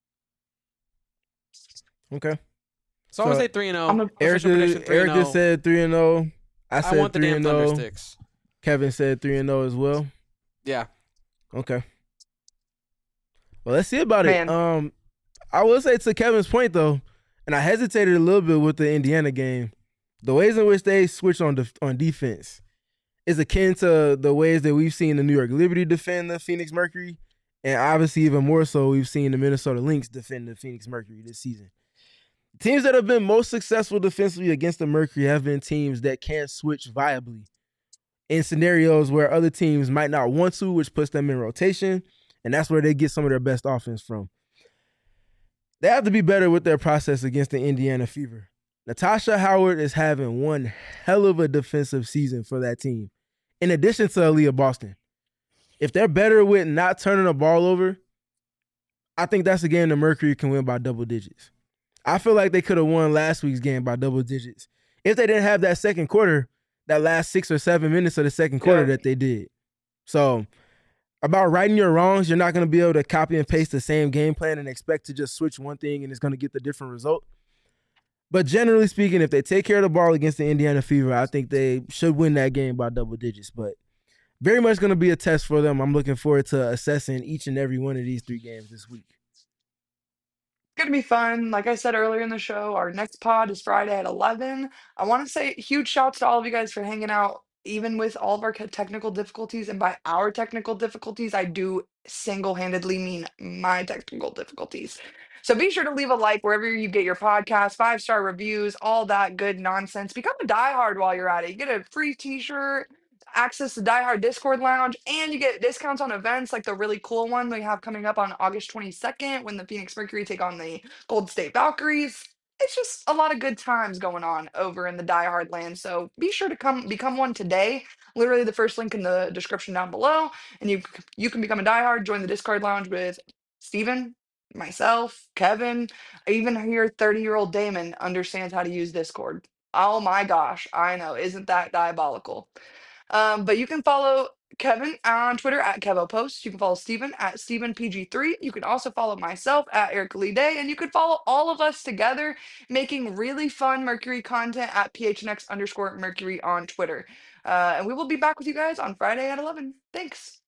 [SPEAKER 2] Okay.
[SPEAKER 3] So I'm gonna say 3-0.
[SPEAKER 2] Erica said 3-0. I said 3-0.
[SPEAKER 3] want the damn Thundersticks.
[SPEAKER 2] Kevin said 3-0 as well.
[SPEAKER 3] Yeah.
[SPEAKER 2] Okay. Well, let's see about it. I will say to Kevin's point though, and I hesitated a little bit with the Indiana game. The ways in which they switch on defense is akin to the ways that we've seen the New York Liberty defend the Phoenix Mercury, and obviously even more so we've seen the Minnesota Lynx defend the Phoenix Mercury this season. Teams that have been most successful defensively against the Mercury have been teams that can't switch viably in scenarios where other teams might not want to, which puts them in rotation, and that's where they get some of their best offense from. They have to be better with their process against the Indiana Fever. Natasha Howard is having one hell of a defensive season for that team, in addition to Aaliyah Boston. If they're better with not turning the ball over, I think that's a game the Mercury can win by double digits. I feel like they could have won last week's game by double digits if they didn't have that second quarter, that last 6 or 7 minutes of the second quarter that they did. So about righting your wrongs, you're not going to be able to copy and paste the same game plan and expect to just switch one thing and it's going to get the different result. But generally speaking, if they take care of the ball against the Indiana Fever, I think they should win that game by double digits. But very much going to be a test for them. I'm looking forward to assessing each and every one of these 3 games this week.
[SPEAKER 1] It's going to be fun. Like I said earlier in the show, our next pod is Friday at 11. I want to say huge shouts to all of you guys for hanging out even with all of our technical difficulties, and by our technical difficulties, I do single-handedly mean my technical difficulties. So be sure to leave a like wherever you get your podcast, 5-star reviews, all that good nonsense. Become a diehard while you're at it. You get a free t-shirt, access to Diehard Discord Lounge, and you get discounts on events like the really cool one we have coming up on August 22nd when the Phoenix Mercury take on the Gold State Valkyries. It's just a lot of good times going on over in the diehard land. So be sure to come become one today. Literally the first link in the description down below. And you can become a diehard, join the Discord lounge with Steven, myself, Kevin. I even hear 30-year-old Damon understands how to use Discord. Oh my gosh, I know. Isn't that diabolical? But you can follow Kevin on Twitter at KevoPost. You can follow Steven at StevenPG3. You can also follow myself at Eric Lee Day. And you can follow all of us together making really fun Mercury content at PHNX_Mercury on Twitter. And we will be back with you guys on Friday at 11. Thanks.